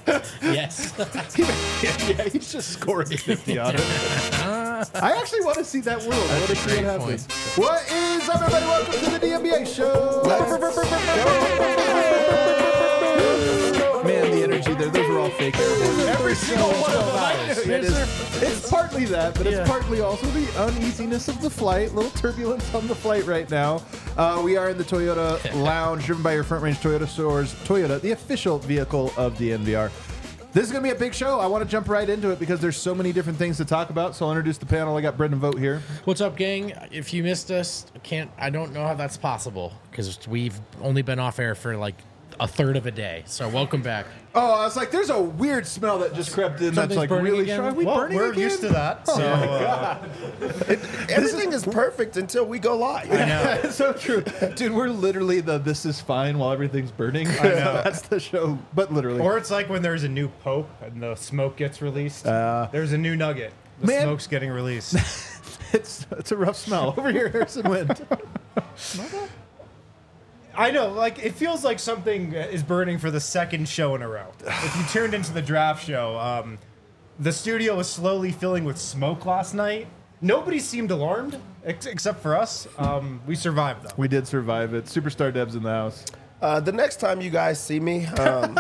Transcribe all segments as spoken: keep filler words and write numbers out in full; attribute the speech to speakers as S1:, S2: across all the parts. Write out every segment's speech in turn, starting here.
S1: Yes.
S2: yeah, yeah, he's just scoring fifty on it. I actually want to see that world. I want to see what happens. What is up, everybody? Welcome to the D N B A show. Man, the energy there, those were all fake. Every single one of them. It is, it's partly that, but it's
S1: Yeah.
S2: partly also the uneasiness of the flight. A little turbulence on the flight right now. Uh, we are in the Toyota Lounge, driven by your Front Range Toyota stores. Toyota, the official vehicle of D N V R. This is going to be a big show. I want to jump right into it because there's so many different things to talk about. So I'll introduce the panel. I got Brendan Vogt here.
S1: What's up, gang? If you missed us, I can't. I don't know how that's possible because we've only been off air for like a third of a day. So welcome back.
S2: Oh, I was like, there's a weird smell that just crept in.
S1: Something's
S2: that's like
S1: burning
S2: really
S1: again?
S2: strong. Are we
S3: Well,
S2: burning
S3: we're
S2: again?
S3: used to that. So uh,
S4: Everything is perfect until we go live.
S3: I know.
S2: It's so true. Dude, we're literally the this is fine while everything's burning.
S3: I know.
S2: That's the show, but literally.
S3: Or it's like when there's a new pope and the smoke gets released.
S2: Uh,
S3: there's a new nugget. The
S2: man.
S3: smoke's getting released.
S2: it's it's a rough smell. Over here, Harrison Wind.
S3: I know, like it feels like something is burning for the second show in a row. If you tuned into the draft show, um, the studio was slowly filling with smoke last night. Nobody seemed alarmed ex- except for us. Um, we survived though.
S2: We did survive it. Superstar Deb's in the house.
S4: Uh, the next time you guys see me, um,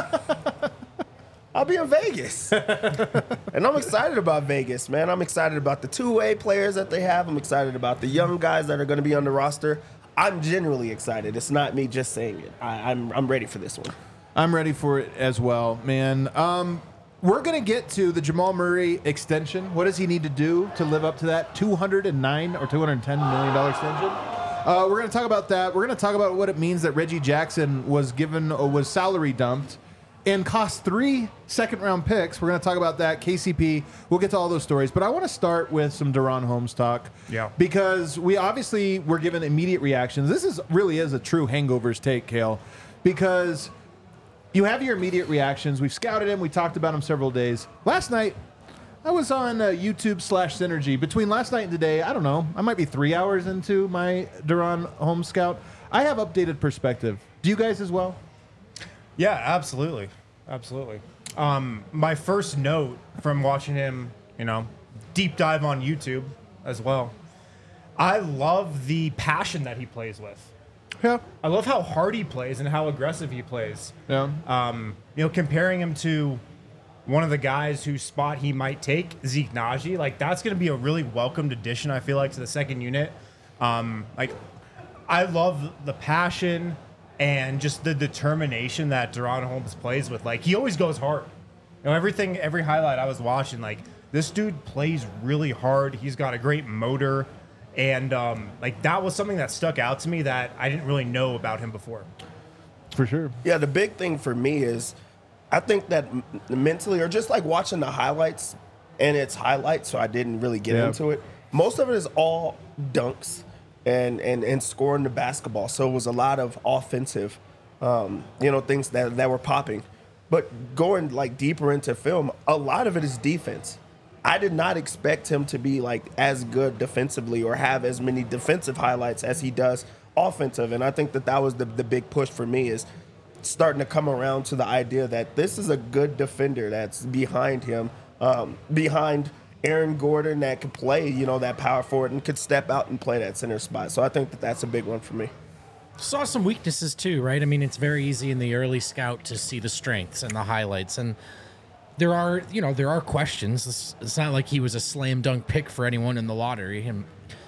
S4: I'll be in Vegas. And I'm excited about Vegas, man. I'm excited about the two-way players that they have. I'm excited about the young guys that are going to be on the roster. I'm genuinely excited. It's not me just saying it. I, I'm I'm ready for this one.
S2: I'm ready for it as well, man. Um, we're going to get to the Jamal Murray extension. What does he need to do to live up to that two hundred nine or two hundred ten million dollars extension? Uh, we're going to talk about that. We're going to talk about what it means that Reggie Jackson was given or was salary dumped and cost three second-round picks. We're going to talk about that. K C P. We'll get to all those stories. But I want to start with some Deron Holmes talk.
S3: Yeah.
S2: Because we obviously were given immediate reactions. This is really is a true hangovers take, Kale. Because you have your immediate reactions. We've scouted him. We talked about him several days. Last night, I was on uh, YouTube slash Synergy. Between last night and today, I don't know. I might be three hours into my Deron Holmes scout. I have updated perspective. Do you guys as well?
S3: Yeah, absolutely, absolutely. Um, my first note from watching him, you know, deep dive on YouTube as well. I love the passion that he plays with.
S2: Yeah.
S3: I love how hard he plays and how aggressive he plays.
S2: Yeah.
S3: Um, you know, comparing him to one of the guys whose spot he might take, Zeke Naji, like that's going to be a really welcomed addition, I feel like, to the second unit. Um, like, I love the passion and just the determination that Deron Holmes plays with. Like, he always goes hard. You know, everything, every highlight I was watching, like, this dude plays really hard. He's got a great motor. And, um, like, that was something that stuck out to me that I didn't really know about him before.
S2: For sure.
S4: Yeah, the big thing for me is I think that m- mentally, or just like watching the highlights, and it's highlights, so I didn't really get
S2: Yeah.
S4: into it. Most of it is all dunks and, and, and scoring the basketball. So it was a lot of offensive, um, you know, things that, that were popping. But going like deeper into film, a lot of it is defense. I did not expect him to be like as good defensively or have as many defensive highlights as he does offensive. And I think that that was the, the big push for me, is starting to come around to the idea that this is a good defender that's behind him, um, behind Aaron Gordon, that could play, you know, that power forward and could step out and play that center spot. So I think that that's a big one for me.
S1: Saw some weaknesses too, right? I mean, it's very easy in the early scout to see the strengths and the highlights, and there are, you know, there are questions. It's, it's not like he was a slam dunk pick for anyone in the lottery. And,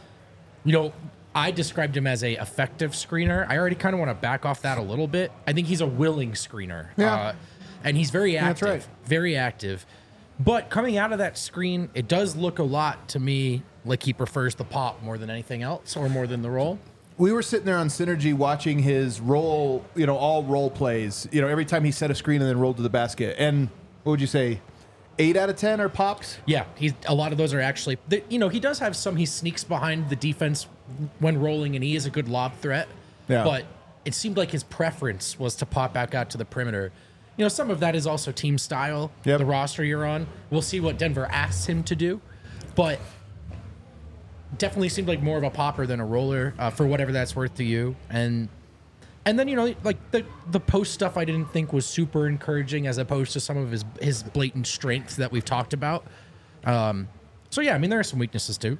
S1: you know, I described him as a effective screener. I already kind of want to back off that a little bit. I think he's a willing screener.
S2: Yeah.
S1: Uh, and he's very active.
S2: That's right.
S1: Very active. But coming out of that screen, it does look a lot to me like he prefers the pop more than anything else, or more than the roll.
S2: We were sitting there on Synergy watching his roll, you know, all roll plays, you know, every time he set a screen and then rolled to the basket. And what would you say? Eight out of ten are pops?
S1: Yeah, he's a lot of those are actually, the, you know, he does have some, he sneaks behind the defense when rolling, and he is a good lob threat.
S2: Yeah.
S1: But it seemed like his preference was to pop back out to the perimeter. You know, some of that is also team style,
S2: Yep.
S1: the roster you're on. We'll see what Denver asks him to do. But definitely seemed like more of a popper than a roller, uh, for whatever that's worth to you. And And then, you know, like the the post stuff I didn't think was super encouraging as opposed to some of his his blatant strengths that we've talked about. Um, so, yeah, I mean, there are some weaknesses too.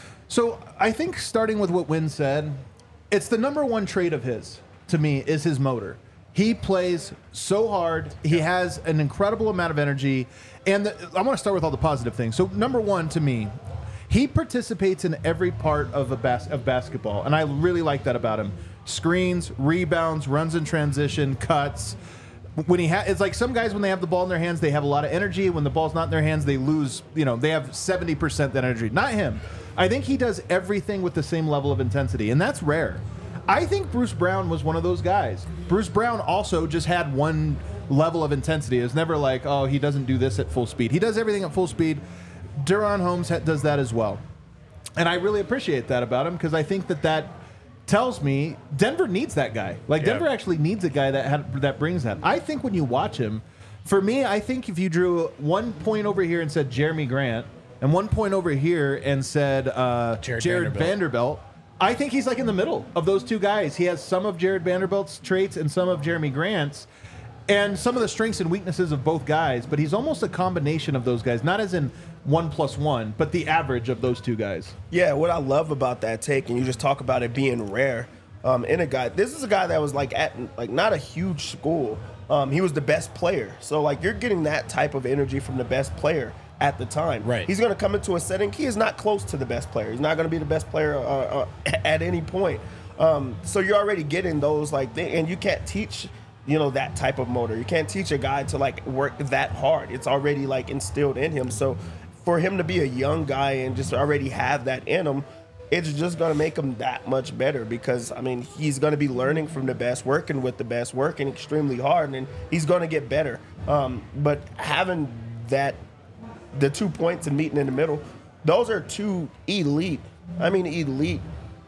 S2: So I think starting with what Wynn said, it's the number one trait of his, to me, is his motor. He plays so hard. He has an incredible amount of energy. And the, I want to start with all the positive things. So number one, to me, he participates in every part of a bas- of basketball. And I really like that about him. Screens, rebounds, runs in transition, cuts. When he ha- it's like some guys, when they have the ball in their hands, they have a lot of energy. When the ball's not in their hands, they lose, you know, they have seventy percent that energy. Not him. I think he does everything with the same level of intensity, and that's rare. I think Bruce Brown was one of those guys. Bruce Brown also just had one level of intensity. It was never like, oh, he doesn't do this at full speed. He does everything at full speed. Duron Holmes ha- does that as well. And I really appreciate that about him because I think that that tells me Denver needs that guy. Like,
S3: Yeah.
S2: Denver actually needs a guy that had, that brings that. I think when you watch him, for me, I think if you drew one point over here and said Jeremy Grant and one point over here and said uh,
S1: Jared
S2: Jared
S1: Vanderbilt.
S2: Vanderbilt, I think he's like in the middle of those two guys. He has some of Jared Vanderbilt's traits and some of Jeremy Grant's and some of the strengths and weaknesses of both guys, but he's almost a combination of those guys, not as in one plus one, but the average of those two guys.
S4: Yeah, what I love about that take, and you just talk about it being rare um, in a guy. This is a guy that was like at like not a huge school. Um, he was the best player, so like you're getting that type of energy from the best player at the time.
S1: Right.
S4: He's going to come into a setting. He is not close to the best player. He's not going to be the best player uh, uh, at any point. Um, so you're already getting those like, thing, and you can't teach. You know, that type of motor. You can't teach a guy to like work that hard. It's already like instilled in him. So for him to be a young guy and just already have that in him, it's just going to make him that much better because, I mean, he's going to be learning from the best, working with the best, working extremely hard, and he's going to get better. Um, but having that, the two points and meeting in the middle, those are two elite, I mean, elite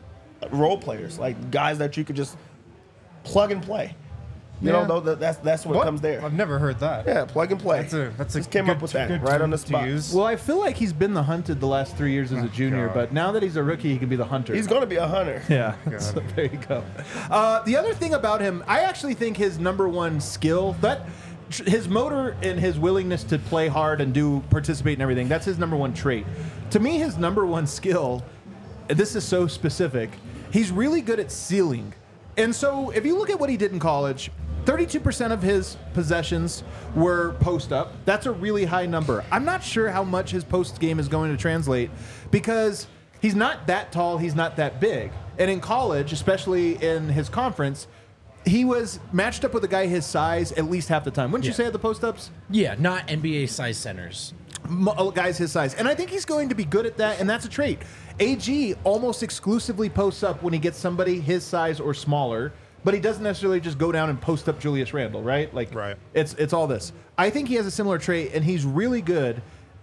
S4: role players, like guys that you could just plug and play. You
S3: Yeah.
S4: know, though, that's that's what,
S3: What?
S4: comes there.
S3: I've never heard that.
S4: Yeah, plug and play.
S3: That's a that's a
S4: Just came
S3: good,
S4: up with that
S3: good
S4: right on the
S3: term to
S4: spot.
S3: use.
S2: Well, I feel like he's been the hunted the last three years as a junior,
S3: God.
S2: but now that he's a rookie, he can be the hunter.
S4: He's going to be a hunter.
S2: Yeah, so there you go. Uh, the other thing about him, I actually think his number one skill, that his motor and his willingness to play hard and do participate in everything, that's his number one trait. To me, his number one skill, and this is so specific, he's really good at sealing. And so if you look at what he did in college, thirty-two percent of his possessions were post up. That's a really high number. I'm not sure how much his post game is going to translate because he's not that tall, he's not that big. And in college, especially in his conference, he was matched up with a guy his size at least half the time. Wouldn't you
S1: Yeah.
S2: say at the post ups?
S1: Yeah, not N B A size centers.
S2: Mo- guys his size. And I think he's going to be good at that, and that's a trait. A G almost exclusively posts up when he gets somebody his size or smaller, but he doesn't necessarily just go down and post up Julius Randle, right? Like,
S3: Right.
S2: it's it's all this. I think he has a similar trait, and he's really good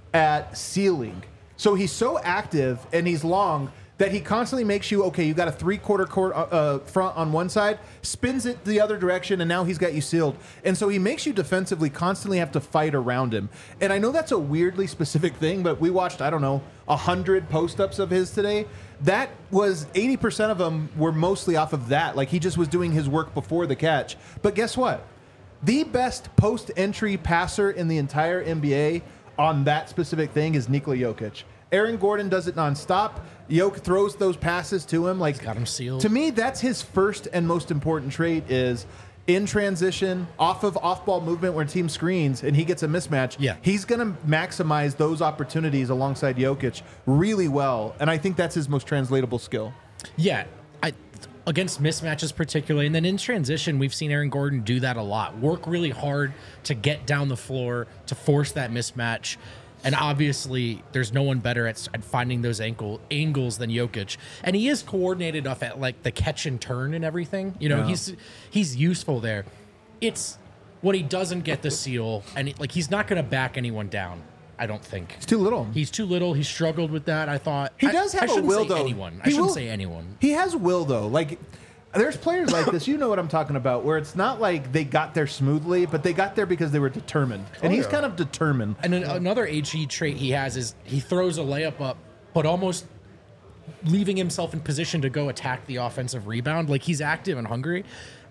S2: at sealing. So he's so active and he's long that he constantly makes you, okay, you got a three-quarter court uh, front on one side, spins it the other direction, and now he's got you sealed. And so he makes you defensively constantly have to fight around him. And I know that's a weirdly specific thing, but we watched, I don't know, one hundred post-ups of his today. That was eighty percent of them were mostly off of that. Like, he just was doing his work before the catch. But guess what? The best post-entry passer in the entire N B A on that specific thing is Nikola Jokic. Aaron Gordon does it nonstop. Jokic throws those passes to him. Like,
S1: got him sealed.
S2: To me, that's his first and most important trait is in transition, off of off-ball movement where team screens and he gets a mismatch.
S1: Yeah.
S2: He's going to maximize those opportunities alongside Jokic really well. And I think that's his most translatable skill.
S1: Yeah, I against mismatches particularly, and then in transition, we've seen Aaron Gordon do that a lot. Work really hard to get down the floor to force that mismatch. And obviously, there's no one better at, at finding those ankle angles than Jokic. And he is coordinated enough at like the catch and turn and everything. You know,
S2: Yeah.
S1: he's he's useful there. It's when he doesn't get the seal, and it, like he's not going to back anyone down. I don't think
S2: It's too little.
S1: he's too little. He struggled with that. I thought
S2: He
S1: I-
S2: does
S1: I
S2: have a
S1: shouldn't
S2: will,
S1: say
S2: though.
S1: Anyone. I
S2: He
S1: shouldn't
S2: will-
S1: say anyone.
S2: He has will, though. Like, there's players like this, you know what I'm talking about, where it's not like they got there smoothly, but they got there because they were determined. And
S3: Oh,
S2: he's
S3: yeah.
S2: kind of determined.
S1: And an, another A G trait he has is he throws a layup up, but almost leaving himself in position to go attack the offensive rebound. Like he's active and hungry.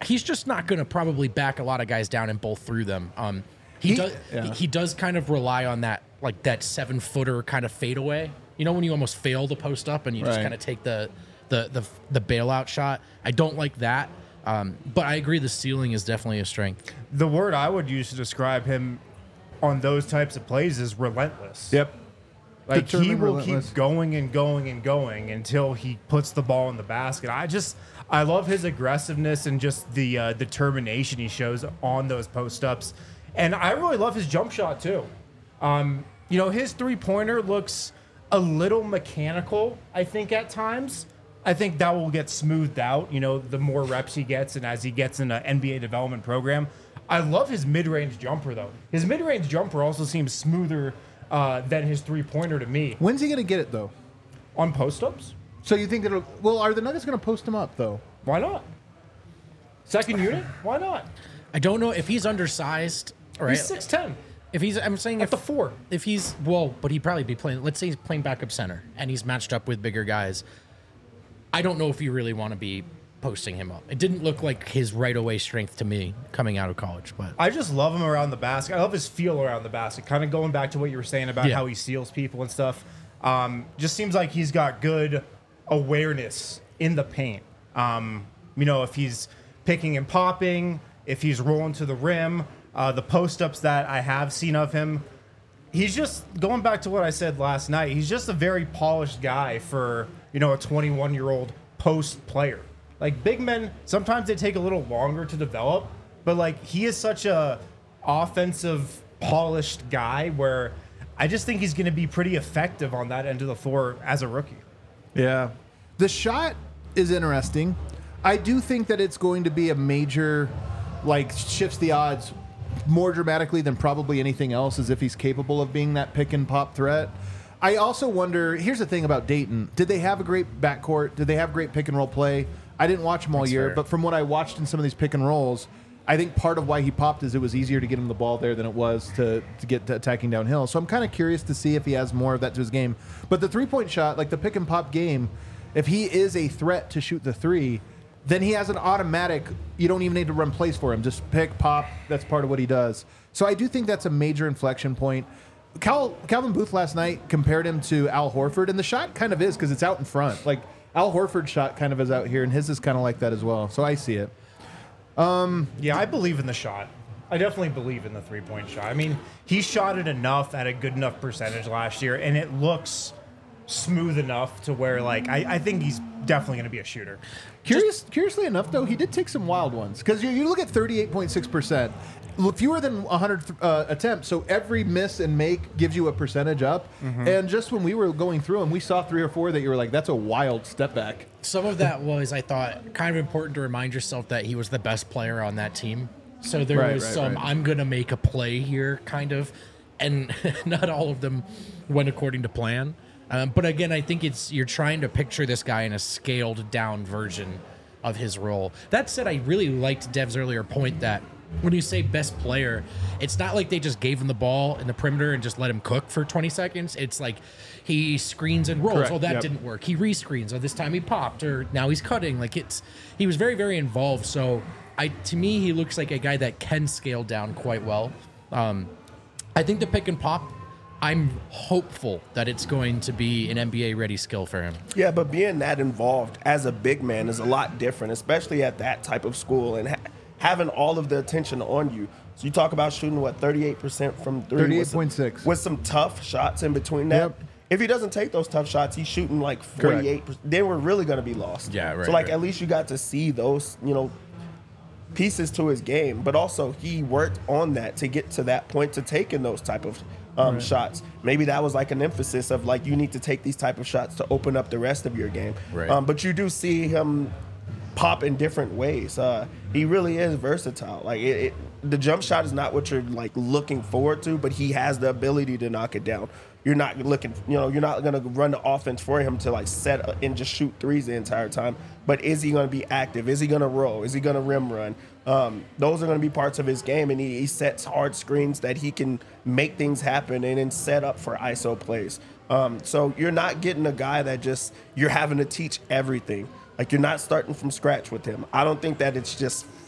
S1: he's just not going to probably back a lot of guys down and bowl through them. Um, he,
S2: He-
S1: does
S2: yeah.
S1: he does kind of rely on that like that seven footer kind of fadeaway. You know when you almost fail to post up and you just
S2: Right.
S1: kind of take the, the the the bailout shot. I don't like that. Um, but I agree the ceiling is definitely a strength.
S3: The word I would use to describe him on those types of plays is relentless.
S2: Yep.
S3: Like he
S2: Determined,
S3: will
S2: relentless.
S3: keep going and going and going until he puts the ball in the basket. I just I love his aggressiveness and just the uh, determination he shows on those post ups, and I really love his jump shot too. Um, you know, his three pointer looks a little mechanical, I think, at times. I think that will get smoothed out, you know, the more reps he gets and as he gets in an N B A development program. I love his mid-range jumper, though. His mid-range jumper also seems smoother uh, than his three-pointer to me.
S2: When's he going to get it, though?
S3: On post-ups?
S2: So you think it'll... Well, are the Nuggets going to post him up, though?
S3: Why not? Second unit? Why not?
S1: I don't know if he's undersized. Right?
S3: He's six ten
S1: If he's, I'm saying
S3: at
S1: if
S3: the four.
S1: if he's well, but he'd probably be playing. Let's say he's playing backup center and he's matched up with bigger guys. I don't know if you really want to be posting him up. It didn't look like his right away strength to me coming out of college, but
S3: I just love him around the basket. I love his feel around the basket. Kind of going back to what you were saying about
S1: Yeah.
S3: how he seals people and stuff. Um, just seems like he's got good awareness in the paint. Um, you know, if he's picking and popping, if he's rolling to the rim, uh, the post ups that I have seen of him, he's just going back to what I said last night. He's just a very polished guy for, you know, a twenty-one year old post player. Like big men, sometimes they take a little longer to develop, but like he is such a offensive polished guy where I just think he's going to be pretty effective on that end of the floor as a rookie.
S2: Yeah. The shot is interesting. I do think that it's going to be a major, like, shifts the odds more dramatically than probably anything else, as if he's capable of being that pick and pop threat. I also wonder, here's the thing about Dayton. Did they have a great backcourt? Did they have great pick and roll play? I didn't watch them all
S1: That's
S2: year,
S1: fair.
S2: but from what I watched in some of these pick and rolls, I think part of why he popped is it was easier to get him the ball there than it was to, to get to attacking downhill. So I'm kind of curious to see if he has more of that to his game. But the three-point shot, like the pick and pop game, if he is a threat to shoot the three, then he has an automatic, you don't even need to run plays for him. Just pick, pop, that's part of what he does. So I do think that's a major inflection point. Cal, Calvin Booth last night compared him to Al Horford, and the shot kind of is because it's out in front. Like Al Horford's shot kind of is out here, and his is kind of like that as well. So I see it.
S3: Yeah, I believe in the shot. I definitely believe in the three point shot. I mean, he shot it enough at a good enough percentage last year, and it looks smooth enough to where, like, I, I think he's definitely going to be a shooter.
S2: Curious, curiously enough, though, he did take some wild ones because you, you look at thirty-eight point six percent, fewer than one hundred uh, attempts. So every miss and make gives you a percentage up. And just when we were going through them, we saw three or four that you were like, "That's a wild step back."
S1: some of that was, I thought, kind of important to remind yourself that he was the best player on that team. So there
S2: Right,
S1: was
S2: right,
S1: some,
S2: right.
S1: I'm going to make a play here kind of, and not all of them went according to plan. Um, but again, I think it's you're trying to picture this guy in a scaled down version of his role. That said, I really liked Dev's earlier point that when you say best player, it's not like they just gave him the ball in the perimeter and just let him cook for twenty seconds. It's like he screens and rolls.
S2: Correct,
S1: Oh, that
S2: yep.
S1: didn't work. He rescreens. Oh, this time he popped, or now he's cutting. Like it's he was very, very involved. So I to me, he looks like a guy that can scale down quite well. Um, I think the pick and pop, I'm hopeful that it's going to be an N B A ready skill for him.
S4: Yeah, but being that involved as a big man is a lot different, especially at that type of school and ha- having all of the attention on you. So you talk about shooting, what, thirty-eight percent from three?
S2: thirty-eight point six.
S4: With some tough shots in between that.
S2: Yep.
S4: If he doesn't take those tough shots, he's shooting like forty-eight percent. Then we're really going to be lost.
S1: Yeah, right,
S4: So, like,
S1: right.
S4: at least you got to see those, you know, pieces to his game, but also he worked on that to get to that point to taking those type of um, shots. Maybe that was like an emphasis of like you need to take these type of shots to open up the rest of your game.
S1: Right.
S4: Um, but you do see him pop in different ways. Uh, he really is versatile. Like it, it, the jump shot is not what you're like looking forward to, but he has the ability to knock it down. You're not looking, you know, you're not going to run the offense for him to like set a, and just shoot threes the entire time. But is he going to be active? Is he going to roll? Is he going to rim run? Um, those are going to be parts of his game, and he, he sets hard screens that he can make things happen and then set up for I S O plays. Um, so you're not getting a guy that just you're having to teach everything. Like you're not starting from scratch with him. I don't think that it's just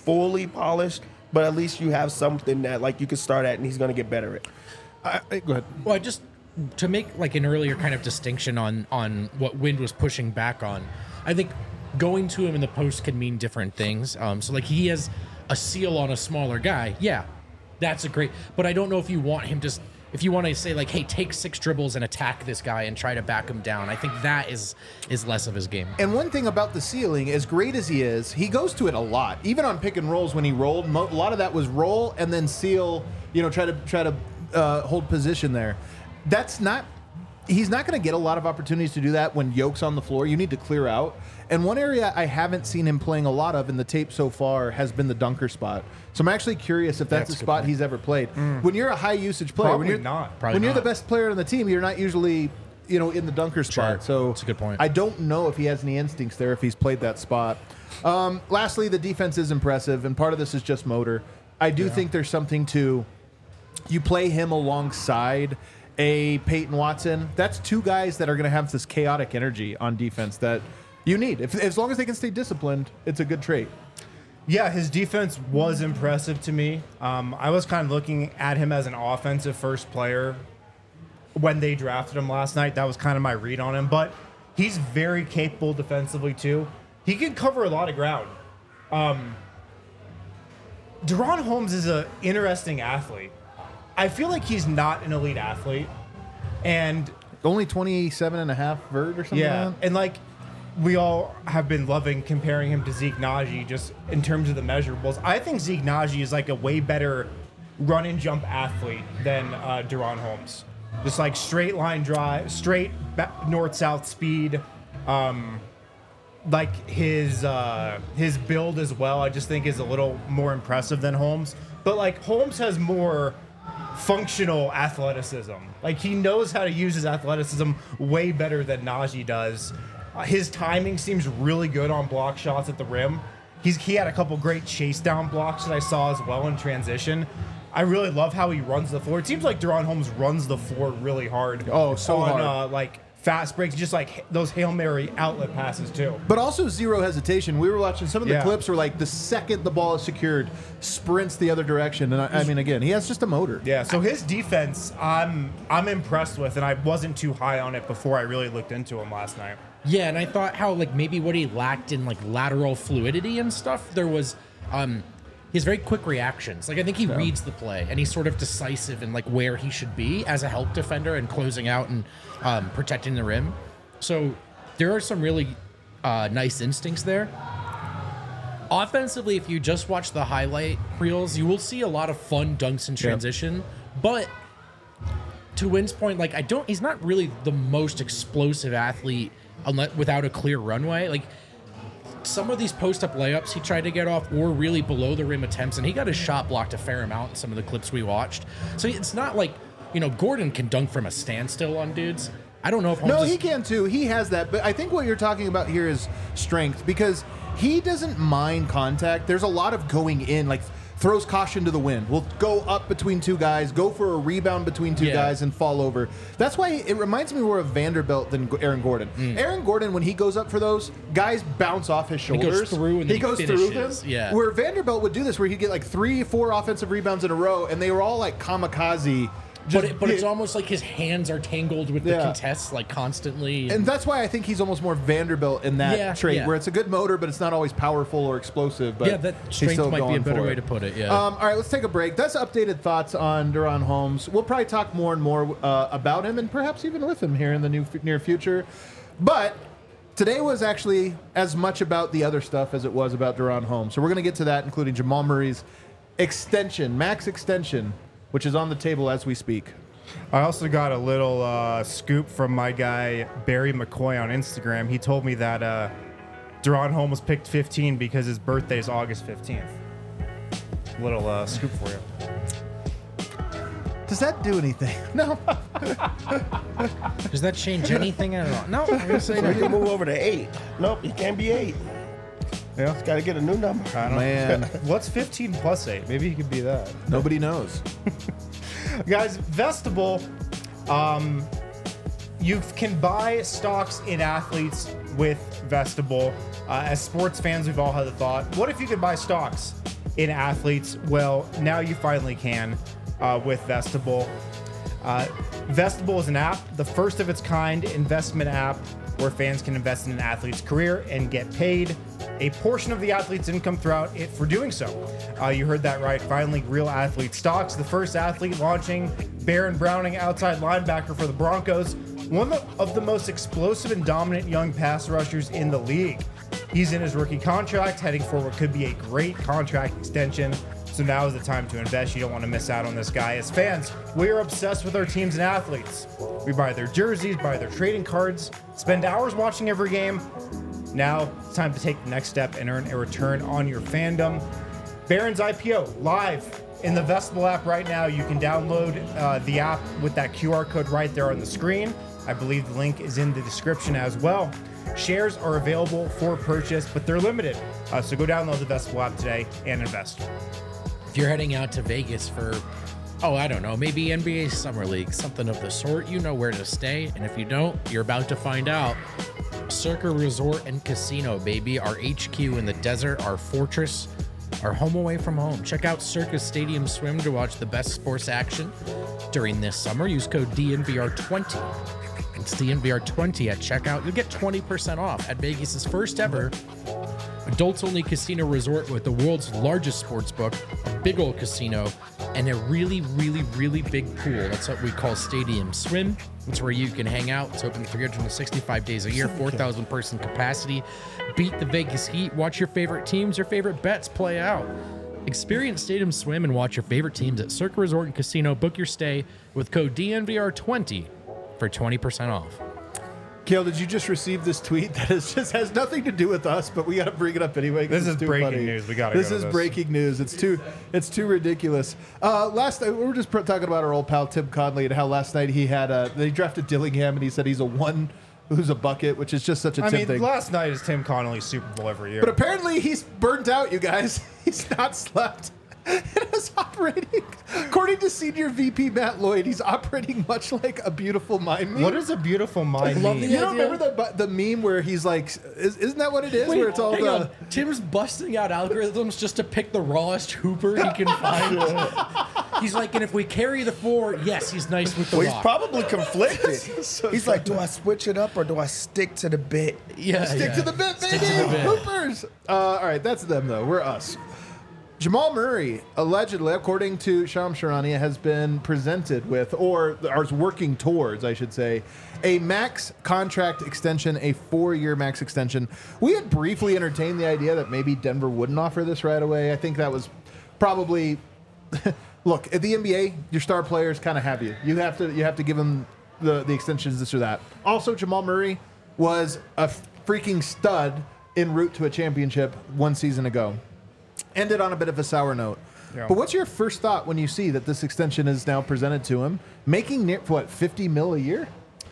S4: fully polished, but at least you have something that like you can start at, and he's going to get better at.
S2: I, I, go ahead.
S1: Well, I just to make like an earlier kind of distinction on on what Wind was pushing back on, I think going to him in the post can mean different things. Um, so like he has a seal on a smaller guy, yeah, that's a great. But I don't know if you want him to, if you want to say like, hey, take six dribbles and attack this guy and try to back him down. I think that is is less of his game.
S2: And one thing about the ceiling, as great as he is, he goes to it a lot. Even on pick and rolls when he rolled, mo- a lot of that was roll and then seal. You know, try to try to uh, hold position there. That's not. He's not going to get a lot of opportunities to do that when Yoke's on the floor. You need to clear out. And one area I haven't seen him playing a lot of in the tape so far has been the dunker spot. So I'm actually curious if that's,
S1: That's
S2: a
S1: a
S2: spot
S1: good
S2: he's ever played. Mm. When you're a high usage player,
S3: Probably
S2: when you're
S3: not.
S1: Probably
S2: when you're
S1: not.
S2: the best player on the team, you're not usually, you know, in the dunker spot.
S1: Sure.
S2: So
S1: That's a good point.
S2: I don't know if he has any instincts there if he's played that spot. Um, lastly, the defense is impressive, and part of this is just motor. I do
S3: Yeah.
S2: think there's something to you play him alongside a Peyton Watson. That's two guys that are going to have this chaotic energy on defense that you need. If, as long as they can stay disciplined, it's a good trait.
S3: Yeah, his defense was impressive to me. Um, I was kind of looking at him as an offensive first player when they drafted him last night. That was kind of my read on him. But he's very capable defensively, too. He can cover a lot of ground. Um, Deron Holmes is an interesting athlete. I feel like he's not an elite athlete. And
S2: Only twenty-seven and a half vert or something
S3: yeah,
S2: like that?
S3: and like we all have been loving comparing him to Zeke Naji just in terms of the measurables. I think Zeke Naji is like a way better run and jump athlete than uh, Deron Holmes. Just like straight line drive, straight north south speed. Um, like his uh, his build as well, I just think is a little more impressive than Holmes. But like Holmes has more functional athleticism. Like he knows how to use his athleticism way better than Najee does. Uh, his timing seems really good on block shots at the rim. He's he had a couple great chase down blocks that I saw as well in transition. I really love how he runs the floor. It seems like Deron Holmes runs the floor really hard.
S2: Oh, so
S3: on,
S2: hard.
S3: Uh, like fast breaks, just like those Hail Mary outlet passes too.
S2: But also zero hesitation. We were watching some of the
S3: Yeah.
S2: clips where, like, the second the ball is secured, sprints the other direction. And I, I mean, again, he has just a motor.
S3: Yeah, so his defense, I'm I'm impressed with, and I wasn't too high on it before I really looked into him last night.
S1: Yeah, and I thought how like maybe what he lacked in like lateral fluidity and stuff, there was um he has very quick reactions. Like I think he reads the play and he's sort of decisive in like where he should be as a help defender and closing out and um, protecting the rim. So there are some really uh, nice instincts there. Offensively, if you just watch the highlight reels, you will see a lot of fun dunks in transition. But to Wynn's point, like I don't, he's not really the most explosive athlete unless without a clear runway. Like some of these post-up layups he tried to get off were really below the rim attempts, and he got his shot blocked a fair amount in some of the clips we watched. So it's not like, you know, Gordon can dunk from a standstill on dudes. I don't know if Holmes
S2: No,
S1: is-
S2: he can too. He has that. But I think what you're talking about here is strength because he doesn't mind contact. There's a lot of going in, like throws caution to the wind. Will go up between two guys, go for a rebound between two
S1: Yeah.
S2: guys, and fall over. That's why it reminds me more of Vanderbilt than Aaron Gordon.
S1: Mm.
S2: Aaron Gordon, when he goes up for those, guys bounce off his
S1: goes
S2: shoulders.
S1: through and
S2: he
S1: then
S2: goes
S1: he
S2: through them.
S1: finishes. Yeah.
S2: Where Vanderbilt would do this, where he'd get like three, four offensive rebounds in a row, and they were all like kamikaze.
S1: But, it, but it's almost like his hands are tangled with
S2: Yeah.
S1: the contests like constantly.
S2: And that's why I think he's almost more Vanderbilt in that
S1: Yeah,
S2: trait,
S1: yeah.
S2: where it's a good motor, but it's not always powerful or explosive. But
S1: Yeah, that
S2: he's
S1: strength
S2: still
S1: might be a
S2: going
S1: better
S2: for
S1: way
S2: it.
S1: to put it, yeah.
S2: Um, all right, let's take a break. That's updated thoughts on Deron Holmes. We'll probably talk more and more uh, about him and perhaps even with him here in the new, near future. But today was actually as much about the other stuff as it was about Deron Holmes. So we're going to get to that, including Jamal Murray's extension, max extension, which is on the table as we speak.
S3: I also got a little uh, scoop from my guy Barry McCoy on Instagram. He told me that uh, Deron Holmes picked fifteen because his birthday is August fifteenth. Little uh, scoop for you.
S2: Does that do anything? No.
S1: Does that change anything at all? No, I'm gonna say
S4: So we
S1: no.
S4: can move over to eight. Nope, you can't be eight.
S3: Yeah.
S4: Got to get a new number.
S3: I don't
S2: Man,
S3: What's fifteen plus eight? Maybe he could be that.
S2: nobody knows.
S3: Guys, Vestable, um, you can buy stocks in athletes with Vestable. Uh, as sports fans, we've all had the thought, what if you could buy stocks in athletes? Well, now you finally can uh, with Vestable. Uh, Vestable is an app, the first of its kind investment app where fans can invest in an athlete's career and get paid a portion of the athlete's income throughout it for doing so. Uh, you heard that right. Finally, real athlete stocks. The first athlete launching, Baron Browning, outside linebacker for the Broncos, one of the most explosive and dominant young pass rushers in the league. He's in his rookie contract, heading for what could be a great contract extension. So now is the time to invest. You don't want to miss out on this guy. As fans, we are obsessed with our teams and athletes. We buy their jerseys, buy their trading cards, spend hours watching every game. Now it's time to take the next step and earn a return on your fandom. Baron's I P O live in the Vestable app right now. You can download uh, the app with that Q R code right there on the screen. I believe the link is in the description as well. Shares are available for purchase, but they're limited. Uh, so go download the Vestable app today and invest.
S1: If you're heading out to Vegas for, oh, I don't know, maybe N B A Summer League, something of the sort, you know where to stay. And if you don't, you're about to find out. Circa Resort and Casino, baby. Our H Q in the desert, our fortress, our home away from home. Check out Circa Stadium Swim to watch the best sports action during this summer. Use code D N V R twenty. It's D N V R twenty at checkout. You'll get twenty percent off at Vegas's first ever adults-only casino resort with the world's largest sports book, a big old casino, and a really, really, really big pool. That's what we call Stadium Swim. It's where you can hang out. It's open three hundred sixty-five days a year, four thousand person capacity. Beat the Vegas Heat. Watch your favorite teams, your favorite bets play out. Experience Stadium Swim and watch your favorite teams at Circa Resort and Casino. Book your stay with code D N V R twenty for twenty percent off.
S2: Kale, did you just receive this tweet that is just has nothing to do with us, but we got to bring it up anyway? 'cause
S3: This
S2: it's
S3: is
S2: too
S3: breaking
S2: funny.
S3: news. We gotta
S2: This
S3: go to
S2: is
S3: this.
S2: breaking news. It's too, it's too ridiculous. Uh, last night we were just pr- talking about our old pal Tim Conley and how last night he had a they drafted Dillingham and he said he's a one who's a bucket, which is just such a
S3: I
S2: Tim
S3: mean,
S2: thing.
S3: last night is Tim Connolly's Super Bowl every year.
S2: But apparently he's burnt out, you guys. He's not slept. It is operating, according to Senior V P Matt Lloyd, he's operating much like a beautiful mind meme.
S3: what is a beautiful mind
S1: Love
S3: mean?
S1: the
S2: You don't
S1: idea.
S2: remember the the meme where he's like, is, isn't that what it is? where it's all
S1: hang
S2: the
S1: on. Tim's busting out algorithms just to pick the rawest hooper he can find. He's like, and if we carry the four, yes, he's nice with the
S4: Well, he's
S1: rock.
S4: probably conflicted.
S2: So
S4: He's like, do I switch it up or do I stick to the bit?
S1: yeah,
S2: stick
S1: yeah.
S2: to the bit, baby.
S1: Stick to the bit.
S2: Hoopers. Uh, all right, that's them though. We're us. Jamal Murray, allegedly, according to Sham Sharania, has been presented with, or is working towards, I should say, a max contract extension, a four-year max extension. We had briefly entertained the idea that maybe Denver wouldn't offer this right away. I think that was probably look at the N B A. Your star players kind of have you. You have to you have to give them the the extensions, this or that. Also, Jamal Murray was a freaking stud en route to a championship one season ago. Ended on a bit of a sour note.
S3: Yeah.
S2: But what's your first thought when you see that this extension is now presented to him, making near, what, fifty mil a year?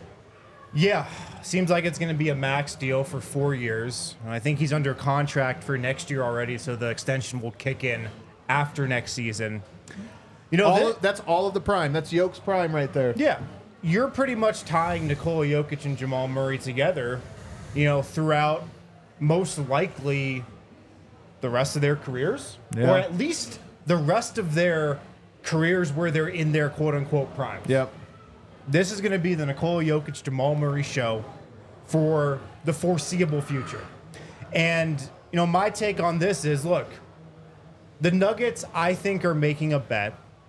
S3: Yeah, seems like it's going to be a max deal for four years. And I think he's under contract for next year already, so the extension will kick in after next season. You know,
S2: All
S3: thi-
S2: of, that's all of the prime. That's Yoke's prime right there.
S3: yeah, you're pretty much tying Nikola Jokic and Jamal Murray together, you know, throughout most likely the rest of their careers,
S2: Yeah.
S3: or at least the rest of their careers where they're in their quote-unquote prime.
S2: Yep.
S3: This is going to be the Nikola Jokic Jamal Murray show for the foreseeable future. And, you know, my take on this is, look, the Nuggets, I think, are making a bet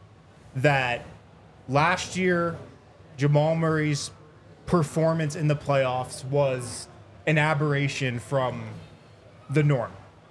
S3: that last year Jamal Murray's performance in the playoffs was an aberration from the norm.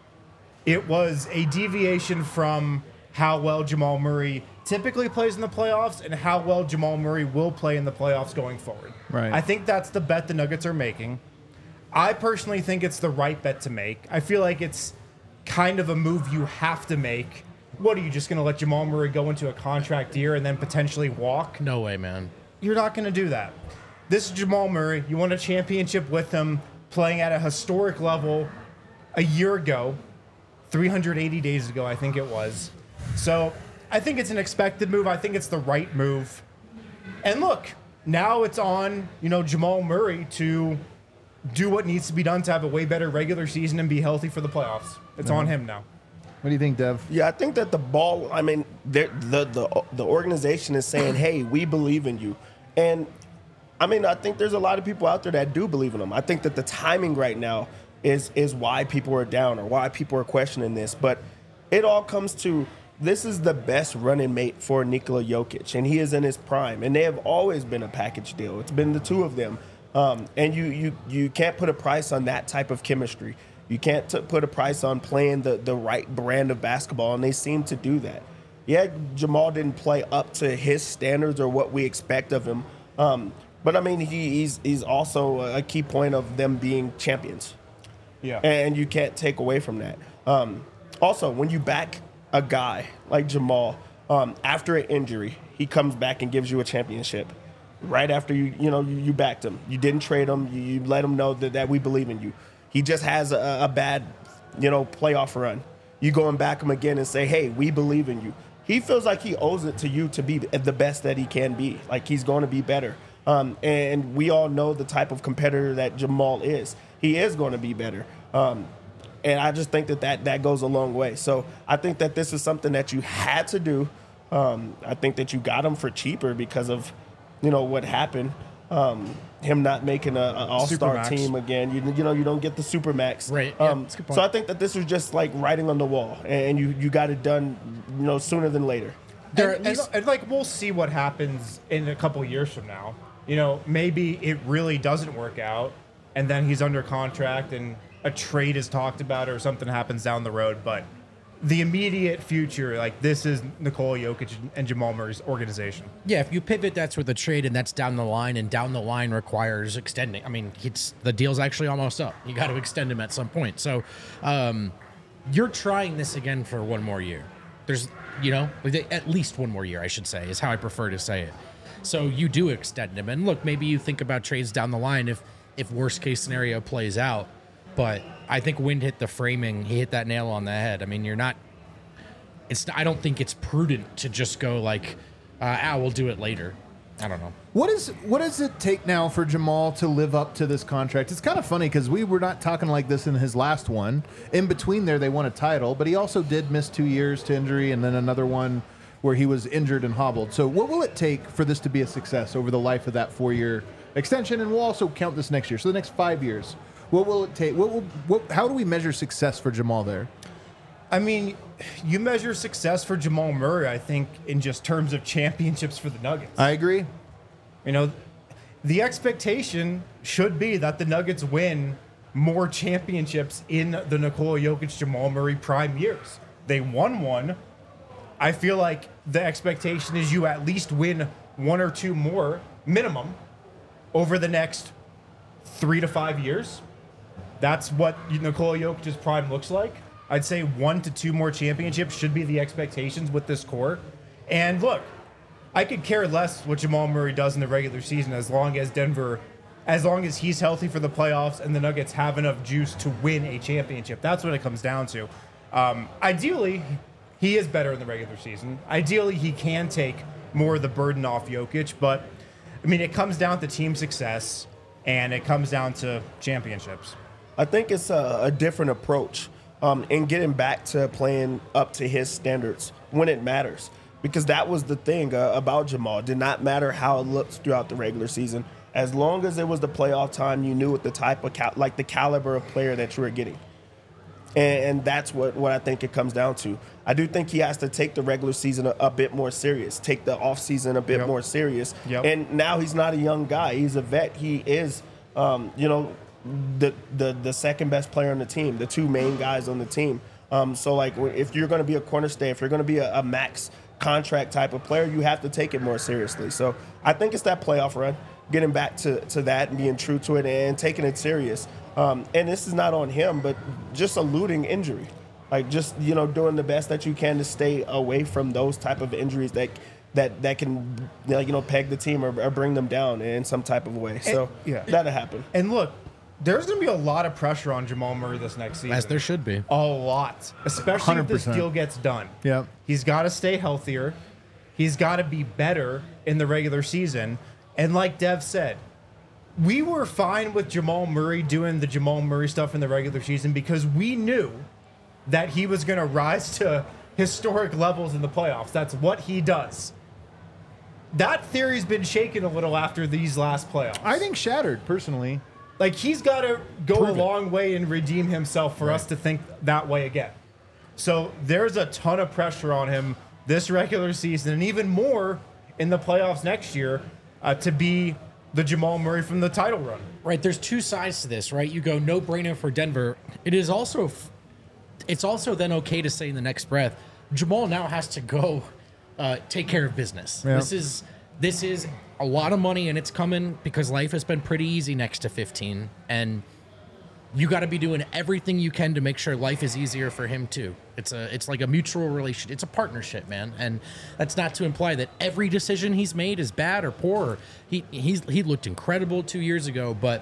S3: It was a deviation from how well Jamal Murray typically plays in the playoffs and how well Jamal Murray will play in the playoffs going forward.
S2: Right.
S3: I think that's the bet the Nuggets are making. I personally think it's the right bet to make. I feel like it's kind of a move you have to make. What, are you just going to let Jamal Murray go into a contract year and then potentially walk?
S1: No way, man.
S3: You're not going to do that. This is Jamal Murray. You won a championship with him, playing at a historic level a year ago, three hundred eighty days ago, I think it was. So I think it's an expected move. I think it's the right move. And look, now it's on, you know, Jamal Murray to do what needs to be done to have a way better regular season and be healthy for the playoffs. It's on him now.
S2: What do you think, Dev?
S4: Yeah, I think that the ball. I mean, the the the organization is saying, "Hey, we believe in you," and I mean, I think there's a lot of people out there that do believe in them. I think that the timing right now is is why people are down or why people are questioning this. But it all comes to this is the best running mate for Nikola Jokic, and he is in his prime. And they have always been a package deal. It's been the two of them, um, and you you you can't put a price on that type of chemistry. You can't t- put a price on playing the, the right brand of basketball, and they seem to do that. Yeah, Jamal didn't play up to his standards or what we expect of him, um, but I mean, he, he's he's also a key point of them being champions.
S3: Yeah.
S4: And you can't take away from that. Um, also, when you back a guy like Jamal um, after an injury, he comes back and gives you a championship. Right after you you know you, you backed him, you didn't trade him, you, you let him know that, that we believe in you. He just has a, a bad, you know, playoff run. You go and back him again and say, hey, we believe in you. He feels like he owes it to you to be the best that he can be. Like he's going to be better. Um, and we all know the type of competitor that Jamal is. He is going to be better. Um, and I just think that, that that goes a long way. So I think that this is something that you had to do. Um, I think that you got him for cheaper because of, you know, what happened. Um, him not making an all-star
S3: Supermax.
S4: team again. You, you know, you don't get the Supermax.
S1: Right. Yeah,
S4: Um,
S1: that's a good point.
S4: so I think that this was just like writing on the wall, and you, you got it done, you know, sooner than later.
S1: There
S3: and,
S1: at least-
S3: and, and, like we'll see what happens in a couple years from now. You know, maybe it really doesn't work out, and then he's under contract, and a trade is talked about, or something happens down the road. But the immediate future, like this is Nikola Jokic and Jamal Murray's organization.
S1: Yeah, if you pivot, that's with the trade, and that's down the line, and down the line requires extending. I mean, it's the deal's actually almost up. You got to extend him at some point. So, um, you're trying this again for one more year. There's, you know, at least one more year, I should say, is how I prefer to say it. So you do extend him, and look, maybe you think about trades down the line if if worst case scenario plays out. But I think Wind hit the framing. He hit that nail on the head. I mean, you're not. It's. I don't think it's prudent to just go like, uh, "Ah, we'll do it later." I don't know.
S2: What is what does it take now for Jamal to live up to this contract? It's kind of funny because we were not talking like this in his last one. In between there, they won a title, but he also did miss two years to injury, and then another one where he was injured and hobbled. So, what will it take for this to be a success over the life of that four-year extension? And we'll also count this next year. So, the next five years, what will it take? What will? What? How do we measure success for Jamal there?
S3: I mean, you measure success for Jamal Murray, I think, in just terms of championships for the Nuggets.
S2: I agree.
S3: You know, the expectation should be that the Nuggets win more championships in the Nikola Jokic, Jamal Murray prime years. They won one. I feel like the expectation is you at least win one or two more minimum over the next three to five years. That's what Nikola Jokic's prime looks like. I'd say one to two more championships should be the expectations with this core. And look, I could care less what Jamal Murray does in the regular season as long as Denver, as long as he's healthy for the playoffs and the Nuggets have enough juice to win a championship. That's what it comes down to. Um, ideally, he is better in the regular season. Ideally, he can take more of the burden off Jokic. But, I mean, it comes down to team success, and it comes down to championships.
S4: I think it's a, a different approach um, in getting back to playing up to his standards when it matters. Because that was the thing uh, about Jamal. It did not matter how it looked throughout the regular season. As long as it was the playoff time, you knew what the type of, cal- like the caliber of player that you were getting. And, and that's what, what I think it comes down to. I do think he has to take the regular season a, a bit more serious, take the offseason a bit
S3: Yep.
S4: more serious.
S3: Yep.
S4: And now he's not a young guy. He's a vet. He is, um, you know, the, the the second best player on the team, the two main guys on the team. Um, so, like, if you're going to be a cornerstone, if you're going to be a, a max contract type of player, you have to take it more seriously. So I think it's that playoff run, getting back to, to that and being true to it and taking it serious. Um, and this is not on him, but just eluding injury. Like, just, you know, doing the best that you can to stay away from those type of injuries that that, that can, you know, peg the team or, or bring them down in some type of way. So
S3: yeah.
S4: that'll happen.
S3: And look, there's going to be a lot of pressure on Jamal Murray this next season.
S1: As there should be.
S3: A lot. Especially
S2: one hundred
S3: if this
S2: percent.
S3: deal gets done.
S2: Yeah.
S3: He's got to stay healthier. He's got to be better in the regular season. And like Dev said, we were fine with Jamal Murray doing the Jamal Murray stuff in the regular season because we knew that he was going to rise to historic levels in the playoffs. That's what he does. That theory's been shaken a little after these last playoffs.
S2: I think shattered, personally.
S3: Like, he's got to go
S2: Prove
S3: a
S2: it.
S3: long way and redeem himself for us to think that way again. So there's a ton of pressure on him this regular season, and even more in the playoffs next year, uh, to be the Jamal Murray from the title run.
S1: Right, there's two sides to this, right? You go no brainer for Denver. It is also, it's also then okay to say in the next breath, Jamal now has to go uh, take care of business.
S2: Yeah.
S1: This is this is a lot of money, and it's coming because life has been pretty easy next to fifteen, and you got to be doing everything you can to make sure life is easier for him too. It's a it's like a mutual relation. It's a partnership, man. And that's not to imply that every decision he's made is bad or poor. He he's he looked incredible two years ago, but